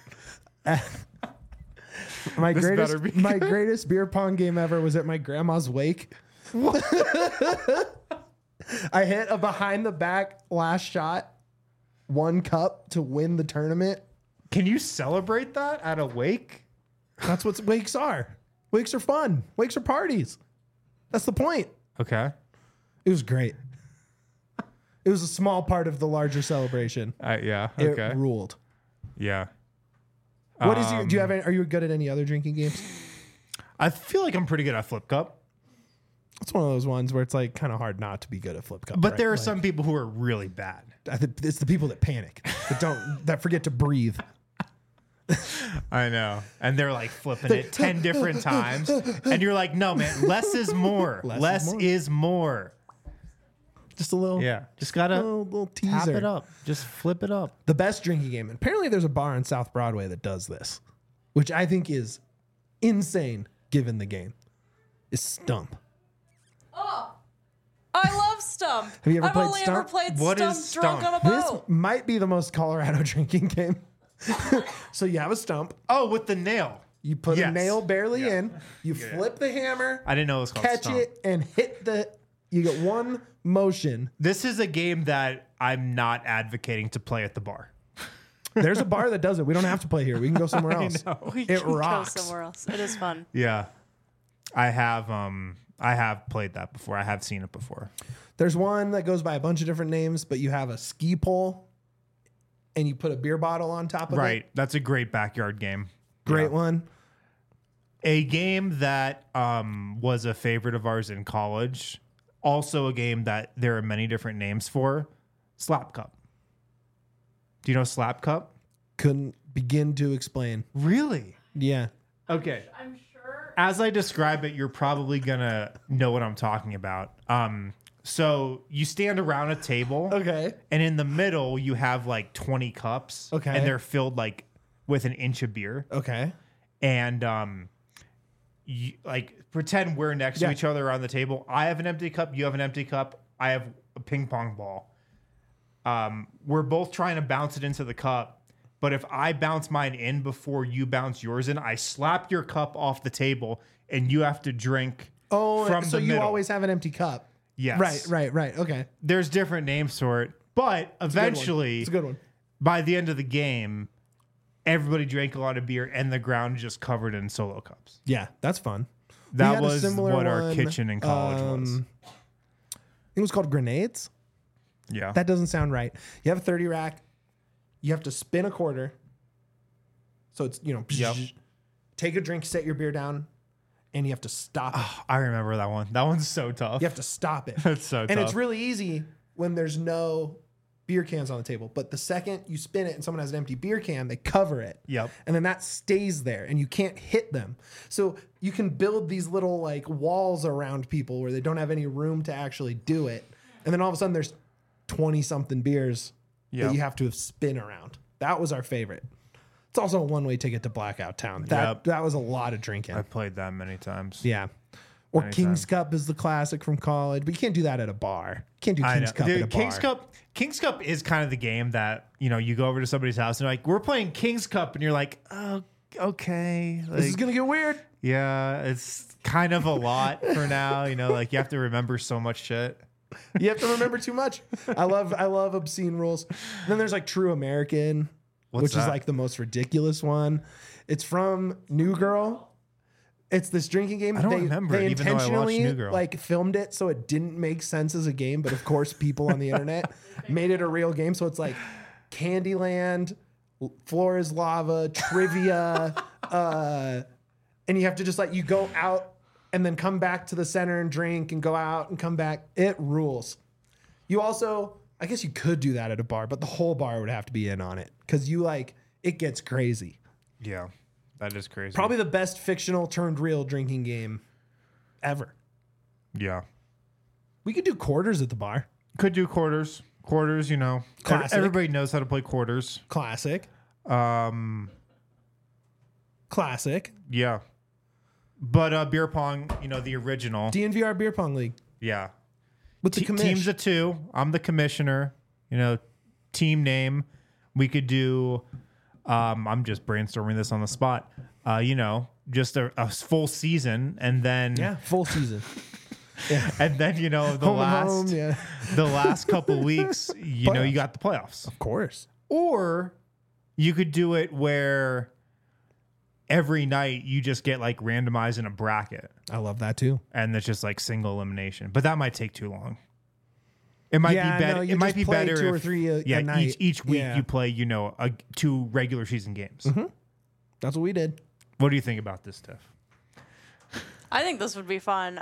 my This better be greatest beer pong game ever was at my grandma's wake. I hit a behind the back last shot, 1 cup to win the tournament. Can you celebrate that at a wake? That's what wakes are. Wakes are fun. Wakes are parties. That's the point. Okay. It was great. It was a small part of the larger celebration. Yeah. It Okay. ruled. Yeah. What is your? Do you have? Are you good at any other drinking games? I feel like I'm pretty good at Flip Cup, It's one of those ones where it's like kind of hard not to be good at Flip Cup. but right? there are Like, some people who are really bad. I think it's the people that panic, that forget to breathe. I know. And they're like flipping it 10 different times. And you're like, no, man, less is more. Less is more. Just a little, Yeah. Just got to little teaser. tap it up. Just flip it up. The best drinking game. And apparently, there's a bar on South Broadway that does this, which I think is insane given the game. Is Stump. I love Stump. Have you ever I've played only Stump? ever played What Stump is drunk Stump? on a This boat. might be the most Colorado drinking game. So you have a stump. Oh, with the nail. You put a Yes. nail barely Yeah. in. You flip the hammer. I didn't know it was called Catch Stump. it and hit the. You get one motion. This is a game that I'm not advocating to play at the bar. There's a bar that does it. We don't have to play here. We can go somewhere else. We It can rocks. go somewhere else. It is fun. Yeah. I have played that before. I have seen it before. There's one that goes by a bunch of different names, but you have a ski pole and you put a beer bottle on top of it. Right. That's a great backyard game. Great Yeah. one. A game that was a favorite of ours in college. Also a game that there are many different names for. Slap Cup. Do you know Slap Cup? Couldn't begin to explain. Really? Yeah. Okay. I'm sure. As I describe it, you're probably gonna know what I'm talking about. So you stand around a table. Okay. And in the middle, you have like 20 cups. Okay. And they're filled like with an inch of beer. Okay. And you, like pretend we're next to Yeah. each other on the table. I have an empty cup. You have an empty cup. I have a ping pong ball. We're both trying to bounce it into the cup. But if I bounce mine in before you bounce yours in, I slap your cup off the table and you have to drink from so the you middle. always have an empty cup. Yes. Right. Okay. There's different names for it. But eventually, It's a good one. by the end of the game, everybody drank a lot of beer and the ground just covered in Solo cups. Yeah, that's fun. We That had a was similar what our one, kitchen in college was. I think it was called grenades. Yeah. That doesn't sound right. You have a 30 rack. You have to spin a quarter. So it's, Yep. take a drink, set your beer down, and you have to stop it. I remember that one. That one's so tough. You have to stop it. That's so And tough. it's really easy when there's no beer cans on the table. But the second you spin it and someone has an empty beer can, they cover it. Yep. And then that stays there and you can't hit them. So you can build these little like walls around people where they don't have any room to actually do it. And then all of a sudden there's 20 something beers Yep. that you have to spin around. That was our favorite. It's also a one-way ticket to Blackout Town. Yep. That was a lot of drinking. I played that many times. Yeah. Or Anytime. King's Cup is the classic from college, but you can't do that at a bar. You can't do I know. King's Cup Dude, at a bar. King's Cup is kind of the game that, you go over to somebody's house and they're like, we're playing King's Cup. And you're like, oh, okay. This is Like, gonna get weird. yeah, it's kind of a lot for now. Like you have to remember so much shit. You have to remember too much. I love obscene rules. Then there's like True American, What's which is that? like the most ridiculous one. It's from New Girl. It's this drinking game. I don't remember They it, even though I watched intentionally New Girl. like filmed it so it didn't make sense as a game, but of course people on the internet made it a real game. So it's like Candyland, Floor is Lava, trivia, and you have to just like you go out and then come back to the center and drink and go out and come back. It rules. You also, I guess you could do that at a bar, but the whole bar would have to be in on it because it gets crazy. Yeah, that is crazy. Probably the best fictional turned real drinking game ever. Yeah. We could do quarters at the bar. Could do quarters. Quarters, Classic. Everybody knows how to play quarters. Classic. Classic. Yeah. But beer pong, the original. DNVR Beer Pong League Yeah. with the commish. Teams of 2. I'm the commissioner. Team name. We could do. I'm just brainstorming this on the spot. Just a full season, and then full season. and then the Home and home, the last couple weeks, you got the playoffs. Of course. Or you could do it where every night you just get randomized in a bracket, I love that too. and it's just single elimination. But that might take too long. It might be better. No, you it might just be play better 2 or if- 3 a night. Each week Yeah. you play 2 regular season games. That's what we did. What do you think about this, Tiff? I think this would be fun.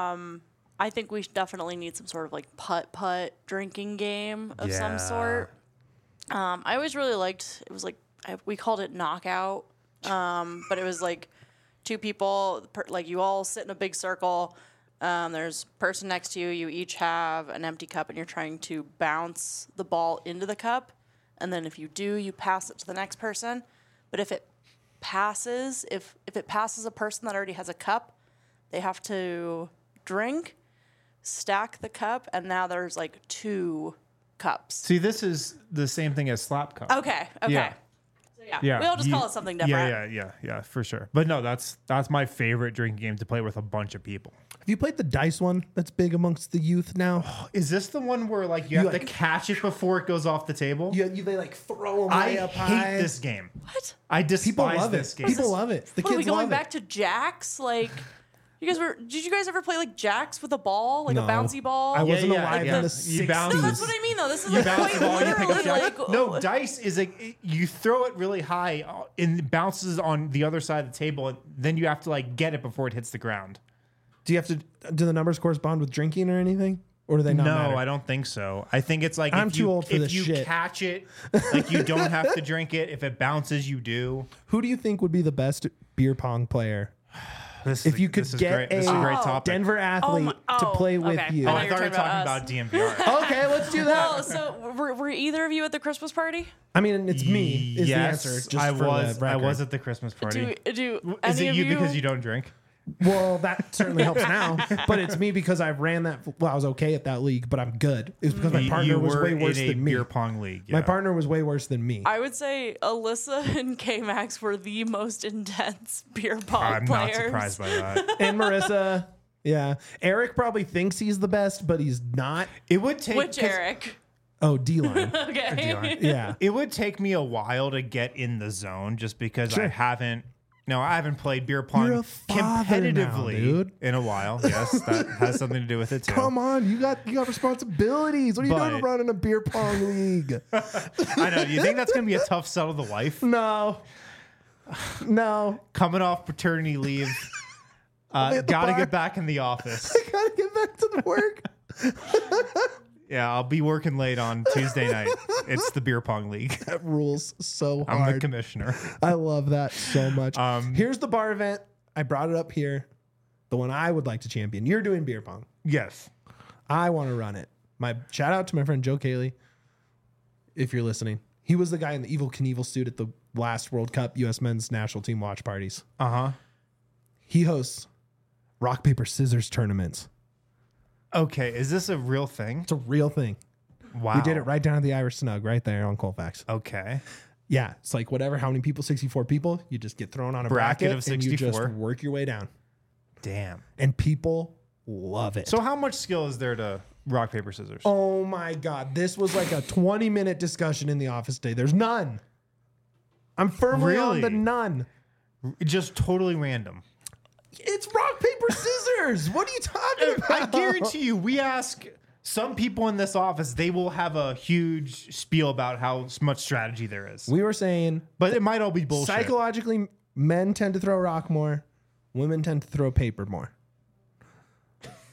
I think we definitely need some sort of putt drinking game of Yeah. some sort. I always really liked. It was we called it knockout, but it was 2 people. You all sit in a big circle. There's a person next to you. You each have an empty cup, and you're trying to bounce the ball into the cup. And then if you do, you pass it to the next person. But if it passes, if it passes a person that already has a cup, they have to drink, stack the cup, and now there's 2 cups. See, this is the same thing as slap cup. Okay. Yeah. So yeah. Yeah, We all just call it something different. Yeah, for sure. But no, that's my favorite drinking game to play with a bunch of people. Have you played the dice one that's big amongst the youth now? Is this the one where you have to catch it before it goes off the table? They throw them I way up hate high. this game. What? I People despise love this it. game. People love it. The What, are we kids going love back it. to jacks? Did you guys ever play jacks with a ball, No. a bouncy ball? I wasn't alive in the You 60s. bounce- No, that's what I mean though. This is You bounce the ball and you pick up literally jack. No, dice is you throw it really high and it bounces on the other side of the table, and then you have to get it before it hits the ground. Do the numbers correspond with drinking or anything? Or do they not No, matter? I don't think so. I think it's I'm if too you, old for if this you shit. catch it, you don't have to drink it. If it bounces, you do. Who do you think would be the best beer pong player? This If is, you could this is get great. This is a great Oh. topic. Denver athlete to play with okay. you. Oh, I I thought you were talking about us. DMVR. Okay, let's do that. Oh, so were either of you at the Christmas party? I mean, it's me is Yes, the answer. Just I for was. the I record. was at the Christmas party. Do Is any it of you because you don't drink? Well, that certainly helps now. But it's me because I ran that. Well, I was okay at that league, but I'm good. It was because my partner you was were way worse in a than me. beer pong league. My yeah. partner was way worse than me. I would say Alyssa and K-Max were the most intense beer pong I'm players. not surprised by that. And Marissa, yeah. Eric probably thinks he's the best, but he's not. It would take Which Eric? Oh, D-line. Okay. Yeah. It would take me a while to get in the zone just because Sure. I haven't played beer pong You're a father now, competitively dude. in a while. Yes, that has something to do with it too. Come on, you got responsibilities. What are you doing But- running a beer pong league? I know. Do you think that's going to be a tough sell to the wife? No. No. Coming off paternity leave, at the got to bar. get back in the office. I gotta get back to the work. Yeah, I'll be working late on Tuesday night. It's the beer pong league. That rules so I'm the hard. commissioner. I love that so much. Um, Here's the bar event. I brought it up here. The one I would like to champion. You're doing beer pong. Yes. I want to run it. My shout out to my friend Joe Cayley, if you're listening. He was the guy in the Evil Knievel suit at the last World Cup U.S. men's national team watch parties. Uh-huh. He hosts rock, paper, scissors tournaments. Okay, is this a real thing? It's a real thing. Wow. We did it right down at the Irish Snug, right there on Colfax. Okay. Yeah, it's like whatever, how many people, 64 people, you just get thrown on a Bracket bracket, of and you just 64. work your way down. Damn. And people love it. So how much skill is there to rock, paper, scissors? Oh my God. This was like a 20-minute discussion in the office today. There's none. I'm firmly on the Really? none. Just totally random. It's rock, paper, scissors. What are you talking I about? guarantee you, we ask some people in this office, they will have a huge spiel about how much strategy there is. We were saying But it might all be bullshit. psychologically, men tend to throw rock more, women tend to throw paper more.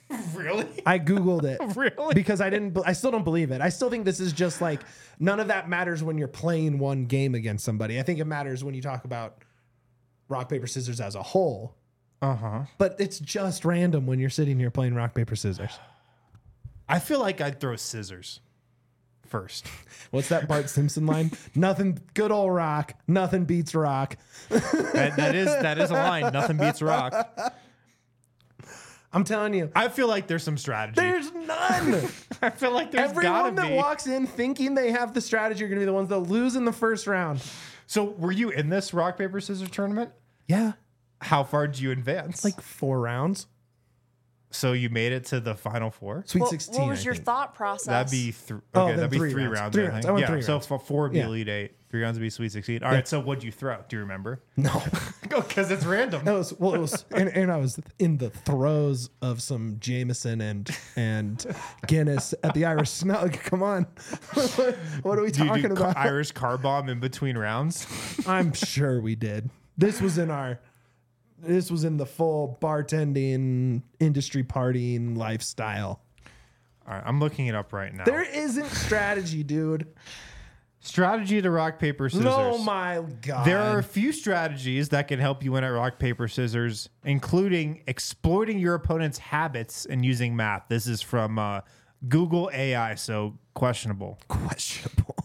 Really? I Googled it. Really? Because I still don't believe it. I still think this is just like, none of that matters when you're playing one game against somebody. I think it matters when you talk about rock, paper, scissors as a whole. But it's just random when you're sitting here playing rock, paper, scissors. I feel like I'd throw scissors first. What's that Bart Simpson line? Nothing, good old rock. Nothing beats rock. That is a line. Nothing beats rock. I'm telling you. I feel like there's some strategy. There's none. I feel like there's Everyone gotta that be. walks in thinking they have the strategy are going to be the ones that lose in the first round. So were you in this rock, paper, scissors tournament? Yeah. How far did you advance? Like 4 rounds. So you made it to the final 4? Sweet 16. What was I your think. thought process? That'd be then that'd be 3 3 rounds. rounds. 3 I rounds. think. I went yeah. 3 So rounds. for 4 would be Yeah. Elite 8. 3 rounds would be Sweet 16. All right. So what'd you throw? Do you remember? No. Because it's random. It was, and I was in the throes of some Jameson and Guinness at the Irish Snug. Come on, what are we Do you talking do about? Irish car bomb in between rounds? I'm sure we did. This was in the full bartending industry partying lifestyle. All right. I'm looking it up right now. There isn't strategy, dude. Strategy to rock, paper, scissors. Oh my god. There are a few strategies that can help you win at rock, paper, scissors, including exploiting your opponent's habits and using math. This is from Google AI, so questionable. questionable.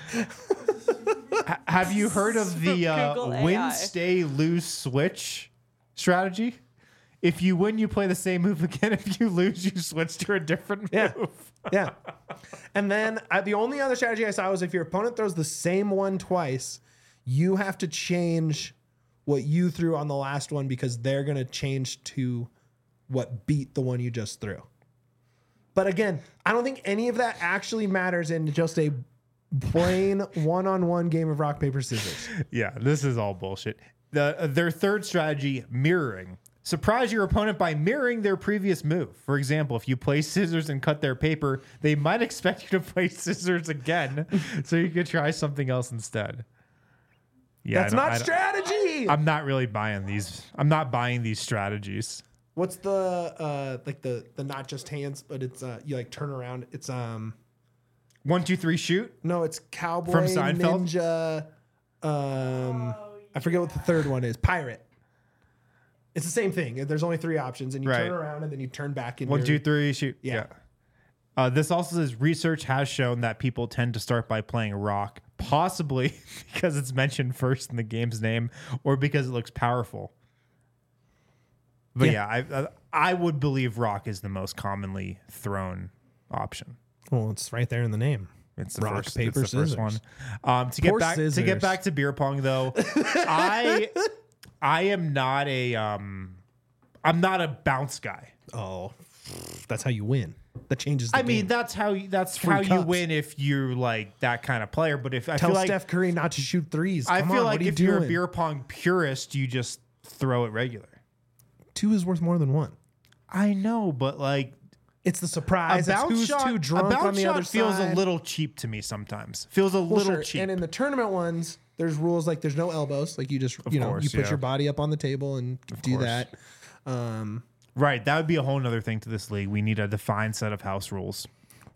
Have you heard of the Google AI. win, stay, lose, switch strategy? If you win, you play the same move again. If you lose, you switch to a different Yeah. move. Yeah. And then the only other strategy I saw was if your opponent throws the same one twice, you have to change what you threw on the last one because they're going to change to what beat the one you just threw. But again, I don't think any of that actually matters in just a plain one-on-one game of rock, paper, scissors. Yeah, this is all bullshit. Their third strategy, mirroring. Surprise your opponent by mirroring their previous move. For example, if you play scissors and cut their paper, they might expect you to play scissors again, so you could try something else instead. Yeah, That's not strategy. I'm not really buying these. I'm not buying these strategies. What's the like the not just hands, but it's you like turn around. It's 1, 2, 3, shoot. no, it's cowboy, From Seinfeld? ninja. I forget what the third one is. Pirate. It's the same thing. There's only 3 options, and you Right. turn around and then you turn back. In 1, your, 2, 3, shoot. Yeah. This also says research has shown that people tend to start by playing rock, possibly because it's mentioned first in the game's name or because it looks powerful. But yeah, I would believe rock is the most commonly thrown option. Well, it's right there in the name. It's the Rock, first, paper, it's the first scissors. one. To get Poor back to scissors. get back to beer pong though, I am not a I'm not a bounce guy. Oh, that's how you win. That changes. The I mean, game. that's how Free you cups. win if you're like that kind of player. But if I Tell feel like Steph Curry not to shoot threes. I Come feel on, like what are you if you're a doing? beer pong purist, you just throw it regular. 2 is worth more than 1. I know, but like It's the a surprise. It's bounce who's shot, too drunk a bounce on the shot other feels side. a little cheap to me sometimes. Feels a Well, little sure. cheap. And in the tournament ones, there's rules like there's no elbows. Like you just you course, you put yeah. your body up on the table and do course. that. Right, that would be a whole nother thing to this league. We need a defined set of house rules.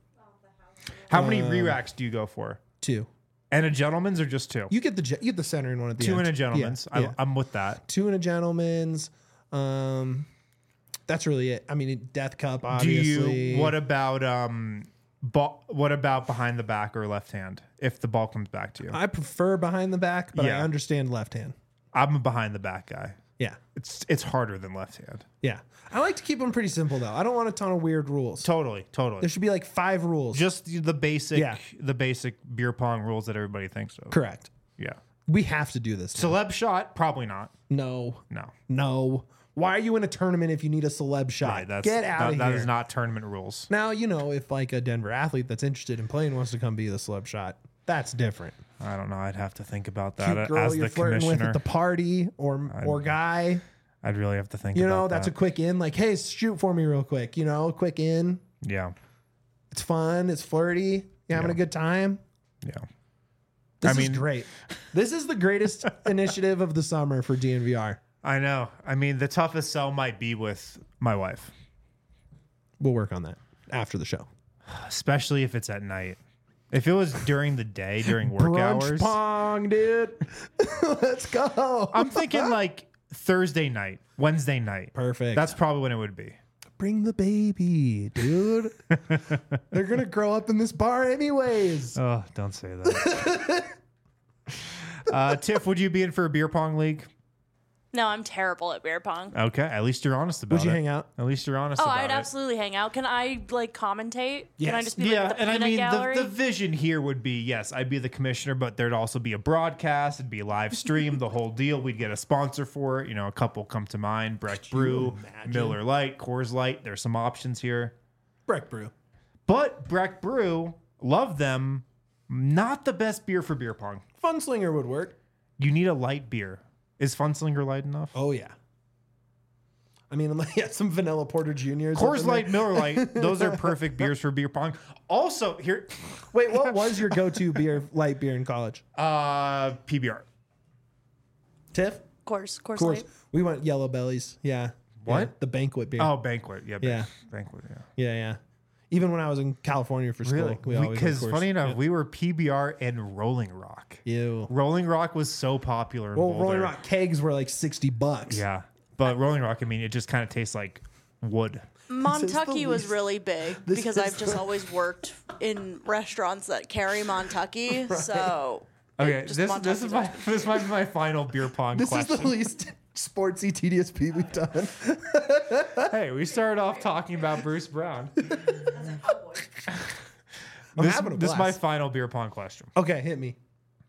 How many re-racks do you go for? 2. And a gentleman's or just 2? You get the center in one at the 2 end. and a gentleman's. Yeah. I'm with that. 2 and a gentleman's. That's really it. I mean, Death Cup, Do obviously. you? What about what about behind the back or left hand? If the ball comes back to you, I prefer behind the back, but I Yeah. understand left hand. I'm a behind the back guy. Yeah. It's harder than left hand. Yeah. I like to keep them pretty simple, though. I don't want a ton of weird rules. Totally. There should be like 5 rules. Just the basic, Yeah. beer pong rules that everybody thinks of. Correct. Yeah. We have to do this. now. Celeb shot, probably not. No. No. No. Why are you in a tournament if you need a celeb shot? Right. That's Get out of that here. is not tournament rules. Now, if like a Denver athlete that's interested in playing wants to come be the celeb shot, that's different. I don't know. I'd have to think about that Cute girl as you're the flirting with commissioner. at the party or guy. I'd really have to think. about That's that. a quick in. Like, hey, shoot for me real quick. Quick in. Yeah. It's fun. It's flirty. You having a good time? Yeah. This I is mean- great. This is the greatest initiative of the summer for DNVR. I know. I mean, the toughest sell might be with my wife. We'll work on that after the show. Especially if it's at night. If it was during the day, during work Brunch hours. pong, dude. Let's go. I'm thinking like Thursday night, Wednesday night. Perfect. That's probably when it would be. Bring the baby, dude. They're going to grow up in this bar anyways. Oh, don't say that. Tiff, would you be in for a beer pong league? No, I'm terrible at beer pong. Okay, at least you're honest about it. Would you hang out? At least you're honest Oh, about I'd it. absolutely hang out. Can I like commentate? Can I Yes. just be Yeah, like the and I peanut mean, gallery? the vision here would be, yes, I'd be the commissioner, but there'd also be a broadcast. It'd be live stream, the whole deal. We'd get a sponsor for it. You know, a couple come to mind. Breck Brew, imagine? Miller Lite, Coors Light. There's some options here. Breck Brew. But Breck Brew, love them. Not the best beer for beer pong. Funslinger would work. You need a light beer. Is Funslinger light enough? Oh, yeah. I mean, some vanilla porter juniors. Coors Light, Miller Lite, those are perfect beers for beer pong. Also, here, Wait, what was your go-to light beer in college? PBR. Tiff? Course Coors. Light. We went Yellow Bellies. Yeah. What? Yeah, the banquet beer. Oh, Banquet. Yeah, Yeah. Banquet, yeah. Yeah, yeah. Even when I was in California for school, Really? we always Because went Coors. funny enough, Yeah. we were PBR and Rolling Rock. Ew. Rolling Rock was so popular in Well, Boulder. Rolling Rock kegs were like $60. Yeah. But Rolling Rock, I mean, it just kind of tastes like wood. Montucky was least- really big this because is I've just the- always worked in restaurants that carry Montucky. So Okay, just this Montucky's is my this might be my final beer pong This question. is the least sportsy TDSP we've done. Hey, we started off talking about Bruce Brown. I'm having a This is my blast. final beer pong question. Okay, hit me.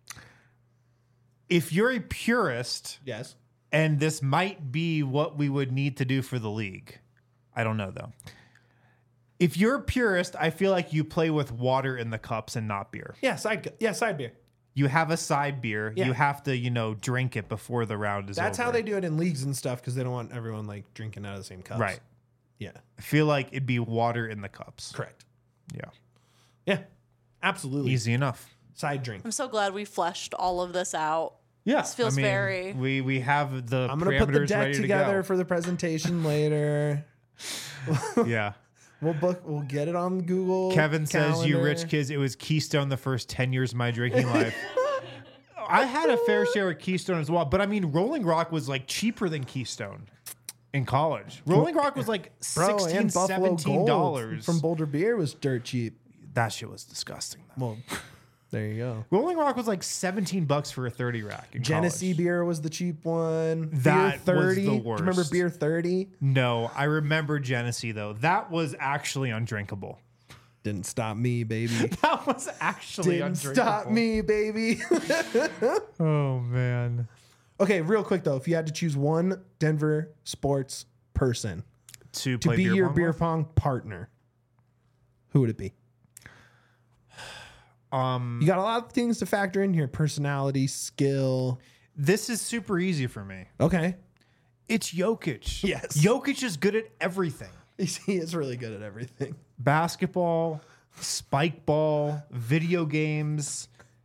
If you're a purist, Yes. and this might be what we would need to do for the league, I don't know though. If you're a purist, I feel like you play with water in the cups and not beer. Yeah, side beer. You have a side beer. Yeah. You have to, drink it before the round is That's over. how they do it in leagues and stuff because they don't want everyone like drinking out of the same cups. Right. Yeah. I feel like it'd be water in the cups. Correct. Yeah. Yeah. Absolutely. Easy enough. Side drink. I'm so glad we fleshed all of this out. Yeah. This feels very- We have the I'm gonna put the parameters deck ready together to for the presentation later. go. Yeah. We'll get it on Google. Kevin says, "You Calendar. rich kids, it was Keystone the first 10 years of my drinking life." I had a fair share of Keystone as well, but I mean, Rolling Rock was like cheaper than Keystone in college. Rolling Rock was like Bro, $16, and Buffalo $17. Gold from Boulder Beer was dirt cheap. That shit was disgusting. Though. Well, there you go. Rolling Rock was like $17 for a 30 rack. In Genesee college. beer was the cheap one. That beer was 30. the Do you remember worst. beer 30? No, I remember Genesee though. That was actually undrinkable. Didn't stop me, baby. That was actually Didn't undrinkable. stop me, baby. Oh man. Okay, real quick though, if you had to choose one Denver sports person To to play be beer your pong beer with? pong partner, who would it be? You got a lot of things to factor in here: personality, skill. This is super easy for me. Okay, It's Jokic. Yes. Jokic is good at everything. he is really good at everything. Basketball, spike ball, video games.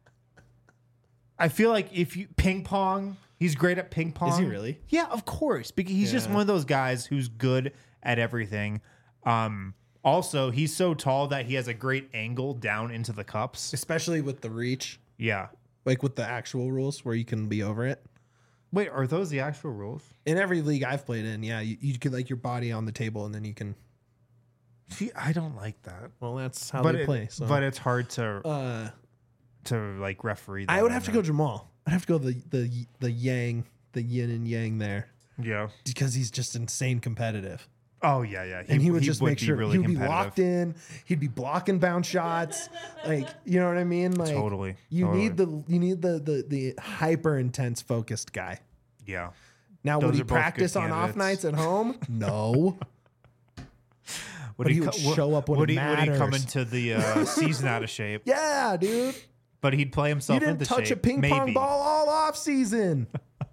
I feel like if you ping pong, he's great at ping pong. Is he really? Yeah, of course. Because he's just Yeah. one of those guys who's good at everything. Also, he's so tall that he has a great angle down into the cups. Especially with the reach, Yeah. like with the actual rules where you can be over it. Wait, are those the actual rules? In every league I've played in, yeah, you could like your body on the table and then you can. See, I don't like that. Well, that's how But they play. So, but it's hard to like referee. That I would I have to know. go Jamal. I'd have to go the yang, the yin and yang there Yeah. because he's just insane competitive. Oh yeah, yeah. And he would just make be sure really he would be competitive. locked in. He'd be blocking bounce shots, like you know what I mean. Like Totally, you totally. need the hyper intense focused guy. Yeah. Now Those would he are both good practice on off candidates. nights at home? No. Would But he would show up when would it he, Would he come matters. into the season out of shape? Yeah, dude. But he'd play himself You didn't into touch shape. a ping Maybe. pong ball all off season.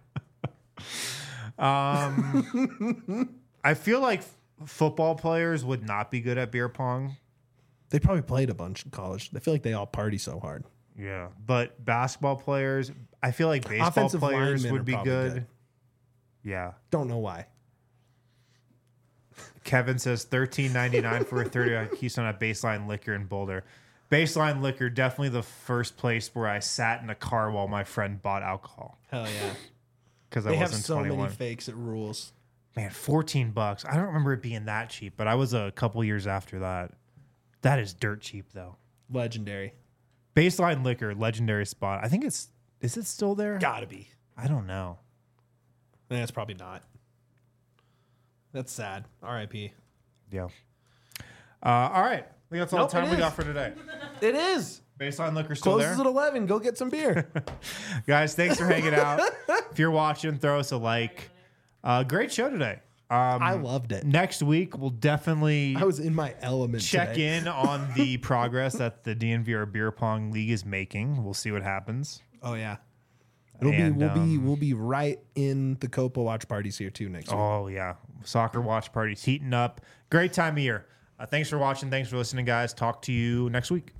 I feel like football players would not be good at beer pong. They probably played a bunch in college. I feel like they all party so hard. Yeah, but basketball players, I feel like baseball Offensive players linemen would are be probably good. good. Yeah. Don't know why. Kevin says $13.99 for a 30 on Keystone at Baseline Liquor in Boulder. Baseline Liquor, definitely the first place where I sat in a car while my friend bought alcohol Hell yeah. because I They have wasn't so 21. many fakes. It rules. Man, $14. I don't remember it being that cheap, but I was a couple years after that. That is dirt cheap though. Legendary. Baseline Liquor, legendary spot. I think is it still there? Gotta be. I don't know. That's probably not. That's sad. R.I.P. Yeah. All right. I think that's all Nope, the time it we is. got for today. It is. Baseline Liquor still Closes there. at 11. Go get some beer. Guys, thanks for hanging out. If you're watching, throw us a like. Great show today. I loved it. Next week, we'll definitely I was in my element. check today. in on the progress that the DNVR Beer Pong League is making. We'll see what happens. Oh yeah. And, We'll be right in the Copa watch parties here too next week. Oh, yeah. Soccer watch parties heating up. Great time of year. Thanks for watching. Thanks for listening, guys. Talk to you next week.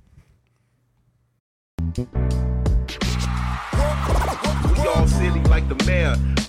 We all silly like the mayor.